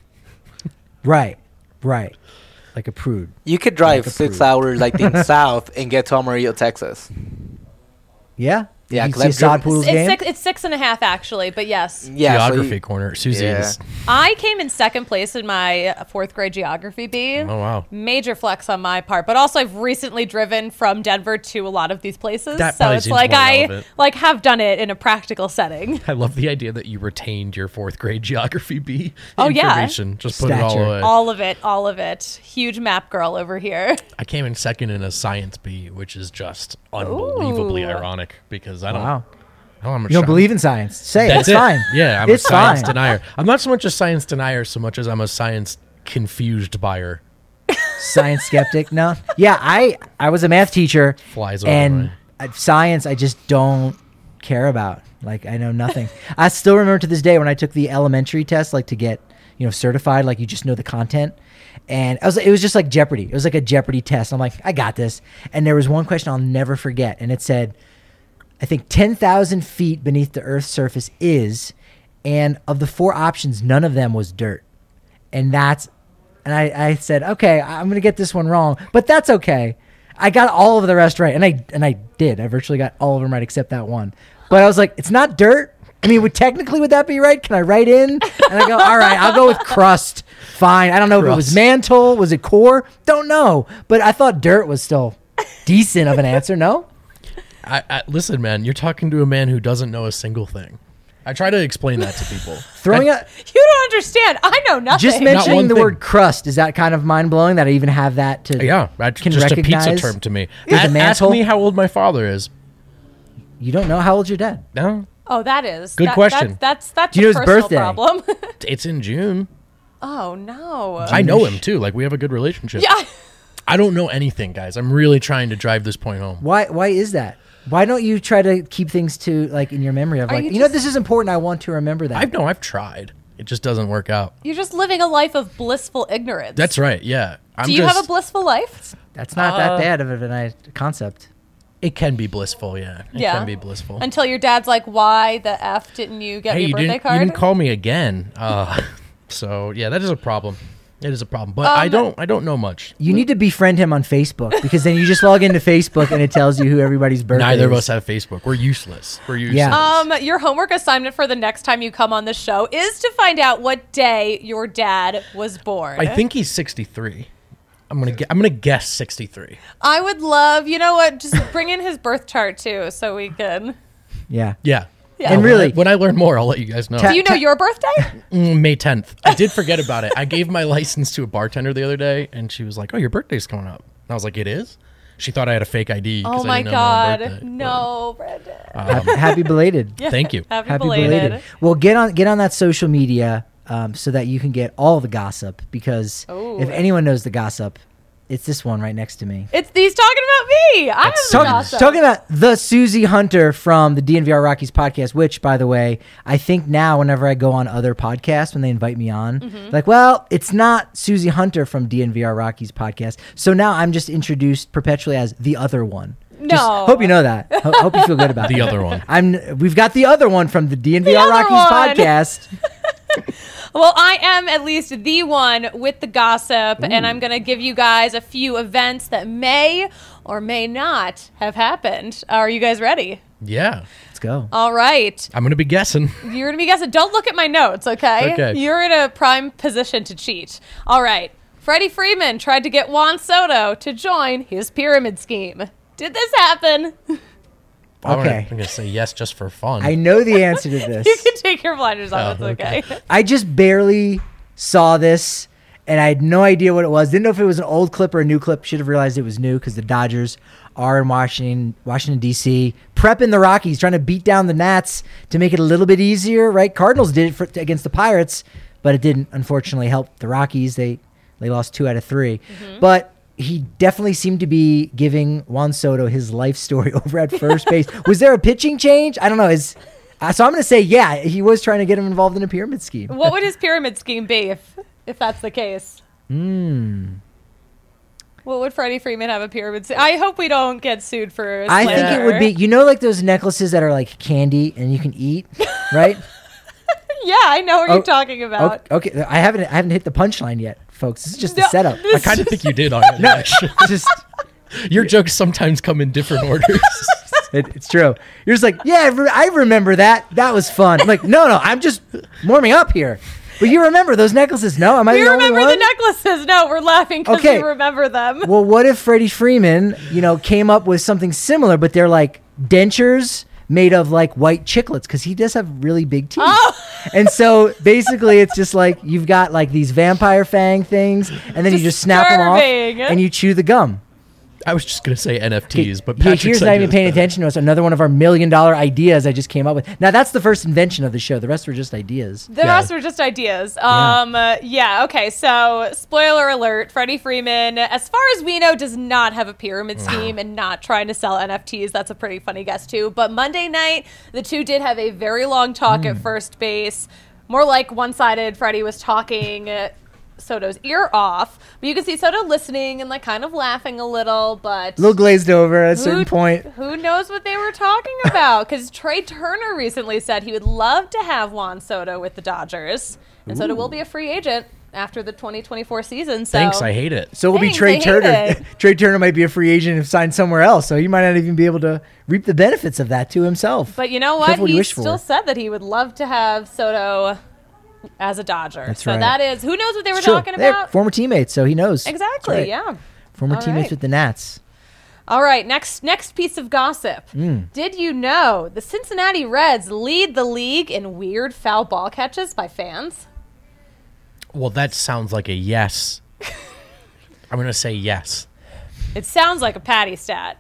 Right. Like a prude. You could drive Like a 6 prude. hours, I think, south and get to Amarillo, Texas. Yeah. Yeah, You 'cause see I've Sod driven- Poodle's It's game. it's 6.5 actually, but yes. Yeah, so Geography you- corner. Susie Yeah. is... I came in second place in my 4th grade geography bee. Oh, wow. Major flex on my part, but also I've recently driven from Denver to a lot of these places, That so probably it's seems like more I relevant. have done it in a practical setting. I love the idea that you retained your 4th grade geography B Oh, yeah. information. Just put it all Stature. away. All of it. Huge map girl over here. I came in second in a science B, which is just unbelievably Ooh. ironic because I don't Wow. have much You don't sci- believe in science. Say it. That's It's it. fine. Yeah, I'm It's a science fine. denier. I'm not so much a science denier so much as I'm a science confused buyer. Science skeptic. No. Yeah, I was a math teacher. Flies over and my- science I just don't care about. Like I know nothing. I still remember to this day when I took the elementary test, like to get certified, like you just know the content. And it was just like Jeopardy. It was like a Jeopardy test. I'm like, I got this. And there was one question I'll never forget, and it said, I think 10,000 feet beneath the Earth's surface is, and of the 4 options, none of them was dirt. And I said, okay, I'm gonna get this one wrong, but that's okay. I got all of the rest right, and I did. I virtually got all of them right except that one. But I was like, it's not dirt. I mean, would that be right? Can I write in? And I go, all right, I'll go with crust. Fine. I don't know if it was mantle. Was it core? Don't know. But I thought dirt was still decent of an answer. No? Listen, man, you're talking to a man who doesn't know a single thing. I try to explain that to people. You don't understand. I know nothing. Just mentioning the word crust, is that kind of mind-blowing that I even have that to that's can just recognize? a pizza term to me. Ask me how old my father is. You don't know how old's your dad? No. Oh, that is. Good question. That's Do you know his personal birthday? problem. It's in June. Oh, no. I know him, too. Like, we have a good relationship. Yeah. I don't know anything, guys. I'm really trying to drive this point home. Why is that? Why don't you try to keep things to like in your memory of this is important. I want to remember that. I've tried. It just doesn't work out. You're just living a life of blissful ignorance. That's right. Yeah. Do you have a blissful life? That's not that bad of a concept. It can be blissful. Yeah. It can be blissful. Until your dad's like, "Why the f didn't you get me a birthday card?" You didn't call me again. So yeah, that is a problem. It is a problem, but I don't know much. You need to befriend him on Facebook because then you just log into Facebook and it tells you who everybody's birthday is. Neither of us have Facebook. We're useless. Yeah. Your homework assignment for the next time you come on the show is to find out what day your dad was born. I think he's 63. I'm gonna guess 63. I would love, you know what? Just bring in his birth chart too, so we can. Yeah. Yeah. Yeah. And really, when I learn more, I'll let you guys know. Do you know your birthday? May 10th. I did forget about it. I gave my license to a bartender the other day, and she was like, "Oh, your birthday's coming up." And I was like, "It is?" She thought I had a fake ID. Oh my God! No, Brendan. happy belated. Yeah. Thank you. Happy belated. Well, get on that social media so that you can get all the gossip. Because if anyone knows the gossip, it's this one right next to me. He's talking about me. I have the gossip. Talking about the Susie Hunter from the DNVR Rockies podcast, which, by the way, I think now whenever I go on other podcasts, when they invite me on, like, well, it's not Susie Hunter from DNVR Rockies podcast. So now I'm just introduced perpetually as the other one. No. Just hope you know that. Hope you feel good about the that. other one. We've got the other one from the DNVR Rockies podcast. Well, I am at least the one with the gossip, and I'm going to give you guys a few events that may or may not have happened. Are you guys ready? Yeah. Let's go. All right. I'm going to be guessing. You're going to be guessing. Don't look at my notes, okay? Okay. You're in a prime position to cheat. All right. Freddie Freeman tried to get Juan Soto to join his pyramid scheme. Did this happen? Okay. I'm going to say yes just for fun. I know the answer to this. You can take your blinders off. It's okay. I just barely saw this, and I had no idea what it was. Didn't know if it was an old clip or a new clip. Should have realized it was new because the Dodgers are in Washington, D.C., prepping the Rockies, trying to beat down the Nats to make it a little bit easier, right? Cardinals did it against the Pirates, but it didn't, unfortunately, help the Rockies. They lost 2 out of 3. But he definitely seemed to be giving Juan Soto his life story over at first base. Was there a pitching change? I don't know. So I'm going to say, yeah, he was trying to get him involved in a pyramid scheme. What would his pyramid scheme be if that's the case? What would Freddie Freeman have a pyramid scheme? I hope we don't get sued for slander. I think it would be, like those necklaces that are like candy and you can eat, right? Yeah, I know what you're talking about. Okay, I haven't hit the punchline yet, folks. This is just a setup. I kind of think you did already. No, just your jokes sometimes come in different orders. It's true. You're just like, yeah, I remember that. That was fun. I'm like, no, I'm just warming up here. But you remember those necklaces? No, am I the only one? We remember the necklaces. No, we're laughing because we remember them. Well, what if Freddie Freeman, came up with something similar, but they're like dentures made of like white chiclets because he does have really big teeth. And so basically it's just like you've got like these vampire fang things and then you just snap them off and you chew the gum. I was just going to say NFTs, but Here's not even paying attention to us. Another one of our $1 million ideas I just came up with. Now, that's the first invention of the show. The rest were just ideas. The rest were just ideas. Okay. So, spoiler alert, Freddie Freeman, as far as we know, does not have a pyramid scheme and not trying to sell NFTs. That's a pretty funny guess, too. But Monday night, the two did have a very long talk at first base. More like one-sided. Freddie was talking Soto's ear off, but you can see Soto listening and like kind of laughing a little, but a little glazed over at a certain point. Who knows what they were talking about? Because Trey Turner recently said he would love to have Juan Soto with the Dodgers, and Soto will be a free agent after the 2024 season. So Thanks, I hate it. So it will be Thanks, Trey I hate Turner. it. Trey Turner might be a free agent and signed somewhere else, so he might not even be able to reap the benefits of that to himself. But you know what? Careful what you He wish for. still said that he would love to have Soto as a Dodger. That's so right. that is, who knows what they were It's true. talking They're about? former teammates, so he knows. Exactly, That's right. yeah. Former All teammates right. with the Nats. All right, next piece of gossip. Mm. Did you know the Cincinnati Reds lead the league in weird foul ball catches by fans? Well, that sounds like a yes. I'm going to say yes. It sounds like a Patty stat.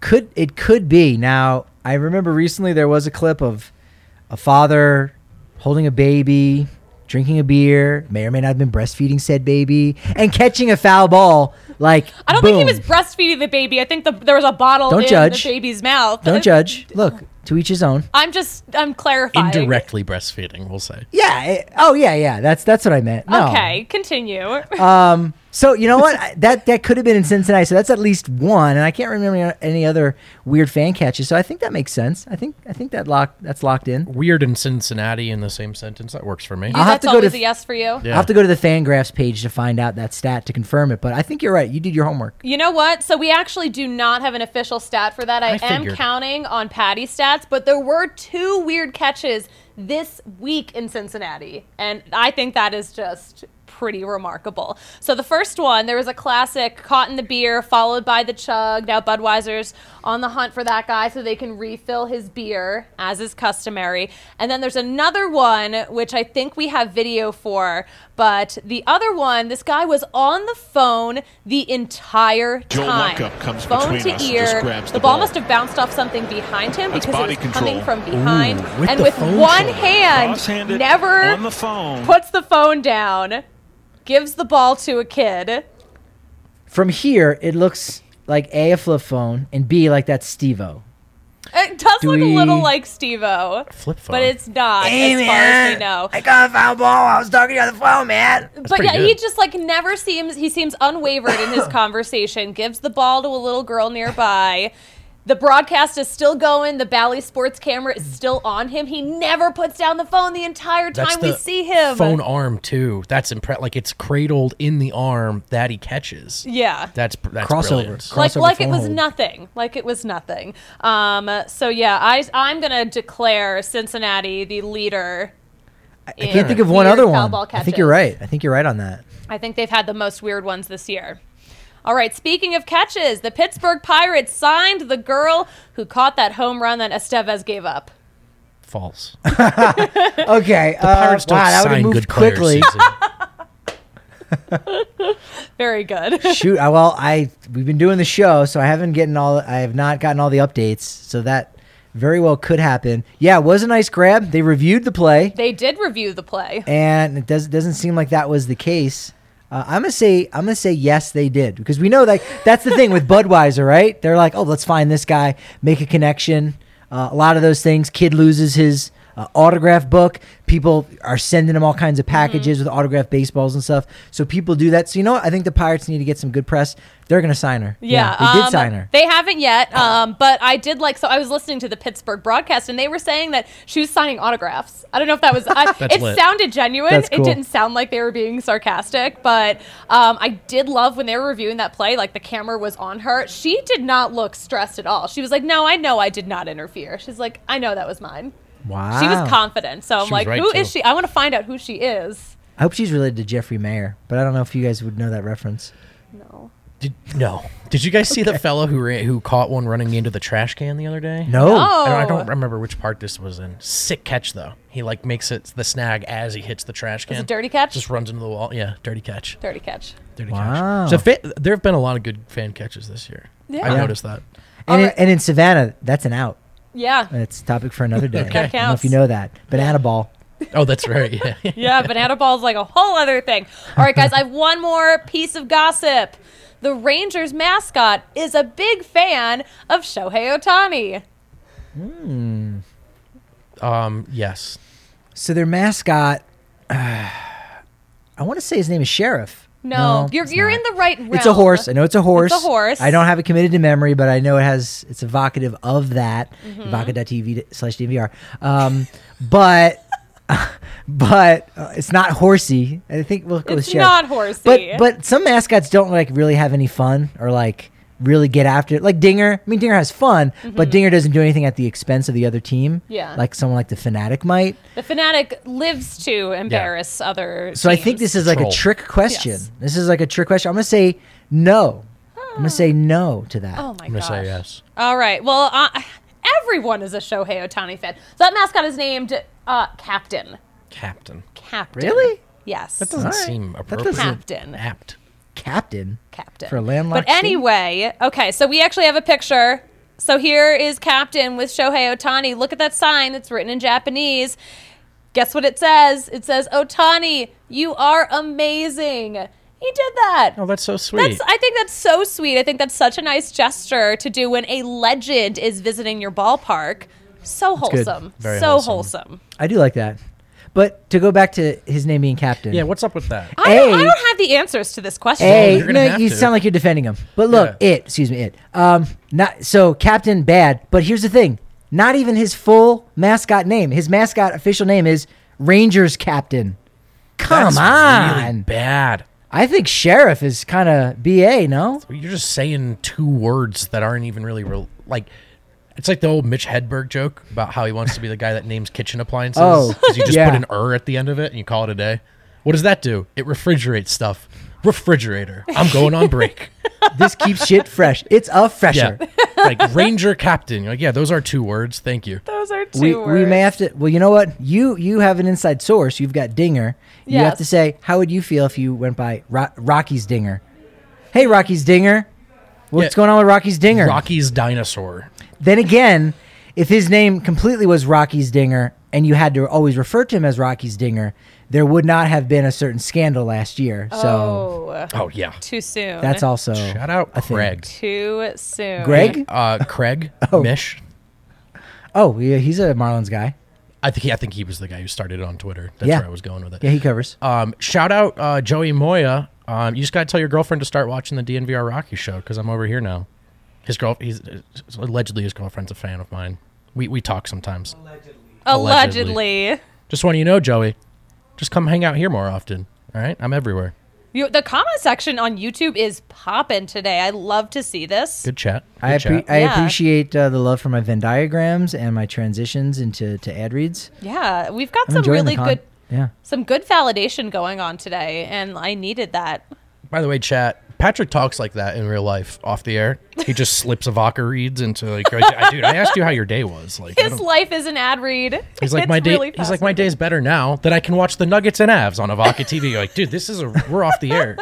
It could be. Now, I remember recently there was a clip of a father holding a baby, drinking a beer, may or may not have been breastfeeding said baby, and catching a foul ball. Like, I don't boom. think he was breastfeeding the baby. I think there was a bottle Don't in judge. the baby's mouth. Don't judge. Look, to each his own. I'm clarifying. Indirectly breastfeeding, we'll say. Yeah. Yeah. That's what I meant. No. Okay, continue. So you know what? That could have been in Cincinnati. So that's at least one, and I can't remember any other weird fan catches. So I think that makes sense. I think that's locked in. Weird and Cincinnati in the same sentence. That works for me. I'll have That's to go always to a yes for you. Yeah. I'll have to go to the Fangraphs page to find out that stat to confirm it. But I think you're right. You did your homework. You know what? So we actually do not have an official stat for that. I am figured. counting on Patty stats, but there were 2 weird catches this week in Cincinnati, and I think that is just pretty remarkable. So the first one, there was a classic caught in the beer, followed by the chug. Now Budweiser's on the hunt for that guy so they can refill his beer, as is customary. And then there's another one, which I think we have video for, but the other one, this guy was on the phone the entire Joel time. Luckham comes phone between to us and ear. just grabs The the ball ball. must have bounced off something behind him That's because it body was coming control. from behind. Ooh, with and the with phone one shoulder. hand, Cross-handed never on the phone. puts the phone down, gives the ball to a kid. From here, it looks like A, a flip phone, and B, like that's Steve-O. It does Do look we- a little like Steve-O, Flip phone. but it's not as far as we know. I got a foul ball. I was talking to you on the phone, man. But pretty yeah, he good. just like never seems, he seems unwavered in his conversation, gives the ball to a little girl nearby. The broadcast is still going. The Bally Sports camera is still on him. He never puts down the phone the entire That's time we the see him. phone arm too. That's like it's cradled in the arm that he catches. Yeah. That's Crossover. brilliant. Like it phone was hold. nothing. Like it was nothing. So yeah, I'm gonna declare Cincinnati the leader. I can't think of one other one. I think you're right. I think you're right on that. I think they've had the most weird ones this year. All right, speaking of catches, the Pittsburgh Pirates signed the girl who caught that home run that Estevez gave up. False. Okay. Pirates don't wow, that would have sign moved good players, quickly. Susie. Very good. Shoot. We've been doing the show, so I have not gotten all the updates. So that very well could happen. Yeah, it was a nice grab. They reviewed the play, They did review the play. and it doesn't seem like that was the case. I'm gonna say yes, they did, because we know that that's the thing with Budweiser, right? They're like, oh, let's find this guy, make a connection. A lot of those things. Kid loses his autograph book. People are sending him all kinds of packages with autographed baseballs and stuff. So people do that. So you know what? I think the Pirates need to get some good press. They're gonna sign her. Yeah, they did sign her. They haven't yet, but I did like. So I was listening to the Pittsburgh broadcast, and they were saying that she was signing autographs. I don't know if that was. It lit. sounded genuine. That's cool. It didn't sound like they were being sarcastic, but I did love when they were reviewing that play. Like the camera was on her. She did not look stressed at all. She was like, "No, I know I did not interfere." She's like, "I know that was mine." Wow. She was confident. So I'm She was like, right, "Who too. is she? I want to find out who she is." I hope she's related to Jeffrey Mayer, but I don't know if you guys would know that reference. No. Did you guys see the fellow who caught one running into the trash can the other day? No. I don't remember which part this was in. Sick catch though. He like makes it the snag as he hits the trash can. Was it dirty catch? Just runs into the wall. Yeah, dirty catch. Dirty catch. Dirty Wow. catch. So there have been a lot of good fan catches this year. Yeah. I noticed that. And in Savannah, that's an out. Yeah. It's a topic for another day. Okay. I don't know if you know that. Banana ball. Oh, that's right. Yeah. Yeah, banana ball is like a whole other thing. All right, guys, I have one more piece of gossip. The Rangers mascot is a big fan of Shohei Ohtani. Yes. So their mascot, I want to say his name is Sheriff. No, it's you're not. in the right realm. It's a horse. I know it's a horse. It's a horse. I don't have it committed to memory, but I know it's evocative of that. Mm-hmm. Evoca.tv/DVR. But but it's not horsey. I think we'll go with It's Sheriff. not horsey. But some mascots don't like really have any fun or like really get after it. Like Dinger. I mean, Dinger has fun, but Dinger doesn't do anything at the expense of the other team. Yeah. Like someone like the Fanatic might. The Fanatic lives to embarrass other So I think teams. this is like a Troll. trick question. Yes. This is like a trick question. I'm gonna say no. I'm gonna say no to that. Oh my I'm going gosh. to say yes. All right. Well, everyone is a Shohei Ohtani fan. So that mascot is named Captain. Captain. Captain. Really? Yes. That doesn't All right. seem That appropriate. doesn't- Captain. Apt. Captain. Captain. For a landlocked But city? anyway, okay, so we actually have a picture. So here is Captain with Shohei Ohtani. Look at that sign that's written in Japanese. Guess what it says? It says, Ohtani, you are amazing. He did that. Oh, that's so sweet. I think that's so sweet. I think that's such a nice gesture to do when a legend is visiting your ballpark. So good. wholesome. Very so wholesome. wholesome. I do like that. But to go back to his name being Captain. Yeah, what's up with that? I don't have the answers to this question. A, you're gonna no, have you to. sound like you're defending him. But look, Yeah. it. Not so Captain bad. But here's the thing: not even his full mascot name. His mascot official name is Rangers Captain. Come That's on, really bad. I think Sheriff is kind of BA. No, You're just saying two words that aren't even really like. It's like the old Mitch Hedberg joke about how he wants to be the guy that names kitchen appliances. Oh, because you just yeah. put an at the end of it and you call it a day. What does that do? It refrigerates stuff. Refrigerator. I'm going on break. this keeps shit fresh. It's a fresher. Yeah. Like Ranger Captain. You're like, yeah, those are two words. Thank you. Those are two We words. may have to. Well, you know what? You have an inside source. You've got Dinger. You have Yes. to say, how would you feel if you went by Rocky's Dinger? Hey, Rocky's Dinger. What's Yeah. going on with Rocky's Dinger? Rocky's dinosaur. Then again, if his name completely was Rocky's Dinger and you had to always refer to him as Rocky's Dinger, there would not have been a certain scandal last year. So Oh yeah. too soon. that's also Shout out a thing. Craig. Too soon. Greg? Craig Oh. Mish. Oh, yeah, he's a Marlins guy. I think he was the guy who started it on Twitter. That's Yeah. where I was going with it. Yeah, he covers. Shout out Joey Moya. You just got to tell your girlfriend to start watching the DNVR Rocky show because I'm over here now. He's allegedly his girlfriend's a fan of mine. We talk sometimes. Allegedly. Just want you to know, Joey, just come hang out here more often. All right, I'm everywhere. The comment section on YouTube is popping today. I love to see this. Good chat. I Good chat. Yeah. appreciate the love for my Venn diagrams and my transitions into ad reads. Yeah, we've got I'm some enjoying really the good Yeah. some good validation going on today, and I needed that. By the way, chat. Patrick talks like that in real life, off the air. He just slips a vodka reads into like, dude, I asked you how your day was. Like, I His don't- life is an ad read. he's like It's my day. really He's like my day's better now that I can watch the Nuggets and Avs on Avaka TV. You're like, dude, we're off the air.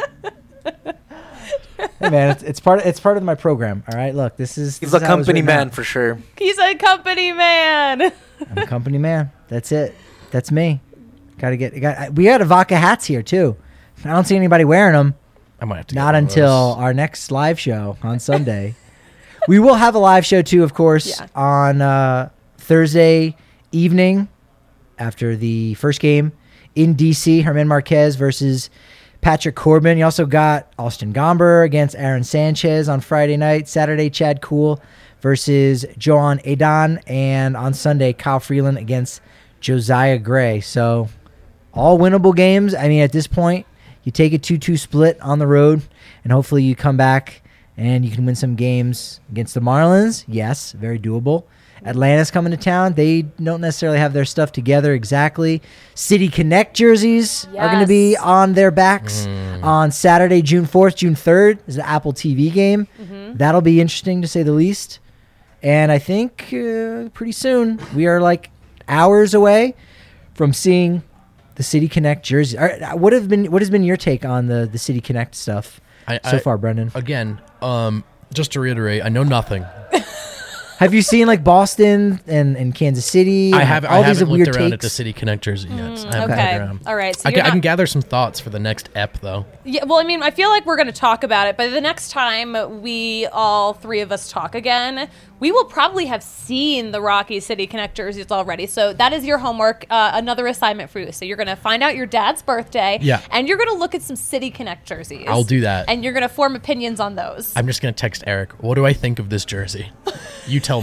Hey man, it's part of my program. All right, look, this is He's this a is how it was company written man out. for sure. He's a company man. I'm a company man. That's it. That's me. We got Avaka hats here too. I don't see anybody wearing them. I might have to. Not get one of until those. our next live show on Sunday. We will have a live show too, of course, Yeah. on Thursday evening after the first game in DC. Herman Marquez versus Patrick Corbin. You also got Austin Gomber against Aaron Sanchez on Friday night. Saturday, Chad Kuhl versus Joan Adon. And on Sunday, Kyle Freeland against Josiah Gray. So all winnable games. I mean, at this point, you take a 2-2 split on the road, and hopefully you come back and you can win some games against the Marlins. Yes, very doable. Atlanta's coming to town. They don't necessarily have their stuff together exactly. City Connect jerseys are going to be Yes. on their backs on Saturday, June 4th, June 3rd is the Apple TV game. That'll be interesting to say the least. And I think pretty soon we are like hours away from seeing the City Connect jersey. What has been your take on the City Connect stuff so far, Brendan? Again, just to reiterate, I know nothing. Have you seen like Boston and Kansas City? I and haven't. all I these haven't weird looked around at takes. the City Connect jersey yet. I haven't Okay. played around. All right. So I you're can not- gather some thoughts for the next ep, though. Yeah, well, I mean, I feel like we're going to talk about it, but the next time we all three of us talk again, we will probably have seen the Rocky City Connect jerseys already. So that is your homework, another assignment for you. So you're going to find out your dad's birthday, Yeah. and you're going to look at some City Connect jerseys. I'll do that. And you're going to form opinions on those. I'm just gonna text Eric. What do I think of this jersey? You tell me.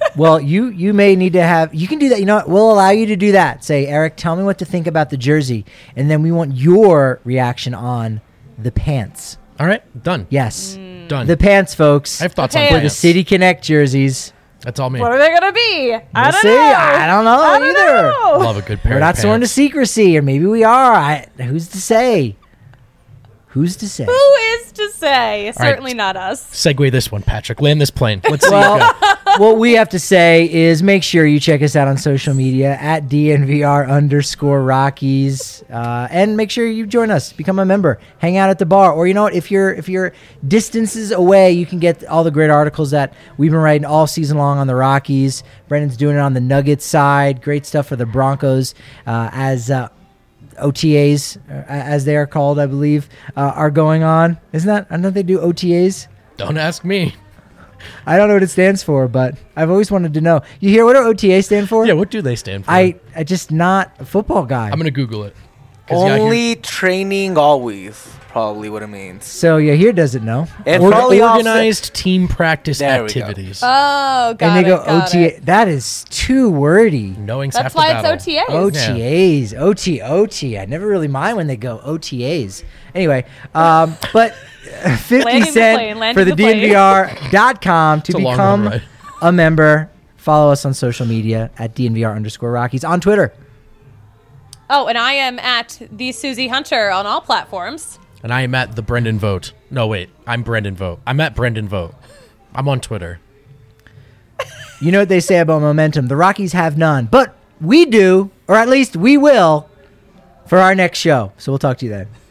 Well, you may need to have. You can do that. You know what? We'll allow you to do that. Say, Eric, tell me what to think about the jersey, and then we want your reaction on the pants. All right, done. Yes, Done. the pants, folks. I have thoughts The on pants. For the pants. City Connect jerseys. That's all me. What are they gonna be? I We'll don't see. know. I don't know I don't either. know. Love a good pair We're of not sworn to pants. secrecy, or maybe we are. Who's to say? Who's to say? Who is to say? Certainly not us. Segue this one, Patrick. Land this plane. Let's see. Well, what we have to say is make sure you check us out on social media at DNVR_Rockies, and make sure you join us, become a member, hang out at the bar, or you know what? If you're distances away, you can get all the great articles that we've been writing all season long on the Rockies. Brendan's doing it on the Nuggets side. Great stuff for the Broncos as OTAs, as they are called, I believe, are going on. Isn't that? I don't know if they do OTAs. Don't ask me. I don't know what it stands for, but I've always wanted to know. You hear what do OTA stand for? Yeah, what do they stand for? I just not a football guy. I'm going to Google it. 'Cause, yeah, Only training always. Probably what it means. So Yahir doesn't know. And Or probably organized team practice There we go. activities. Oh, got And they it. go got OTA. it. That is too wordy. Knowing's That's half the why battle. it's OTAs. OTAs, OT. I never really mind when they go OTAs. Anyway, but 50 Landing the cent plane, for landing the the plane. DNVR.com to It's a long become ride. a member. Follow us on social media at DNVR_Rockies on Twitter. Oh, and I am at the Susie Hunter on all platforms. And I am at the Brendan Vote. No, wait. I'm Brendan Vote. I'm at Brendan Vote. I'm on Twitter. You know what they say about momentum. The Rockies have none, but we do, or at least we will, for our next show. So we'll talk to you then.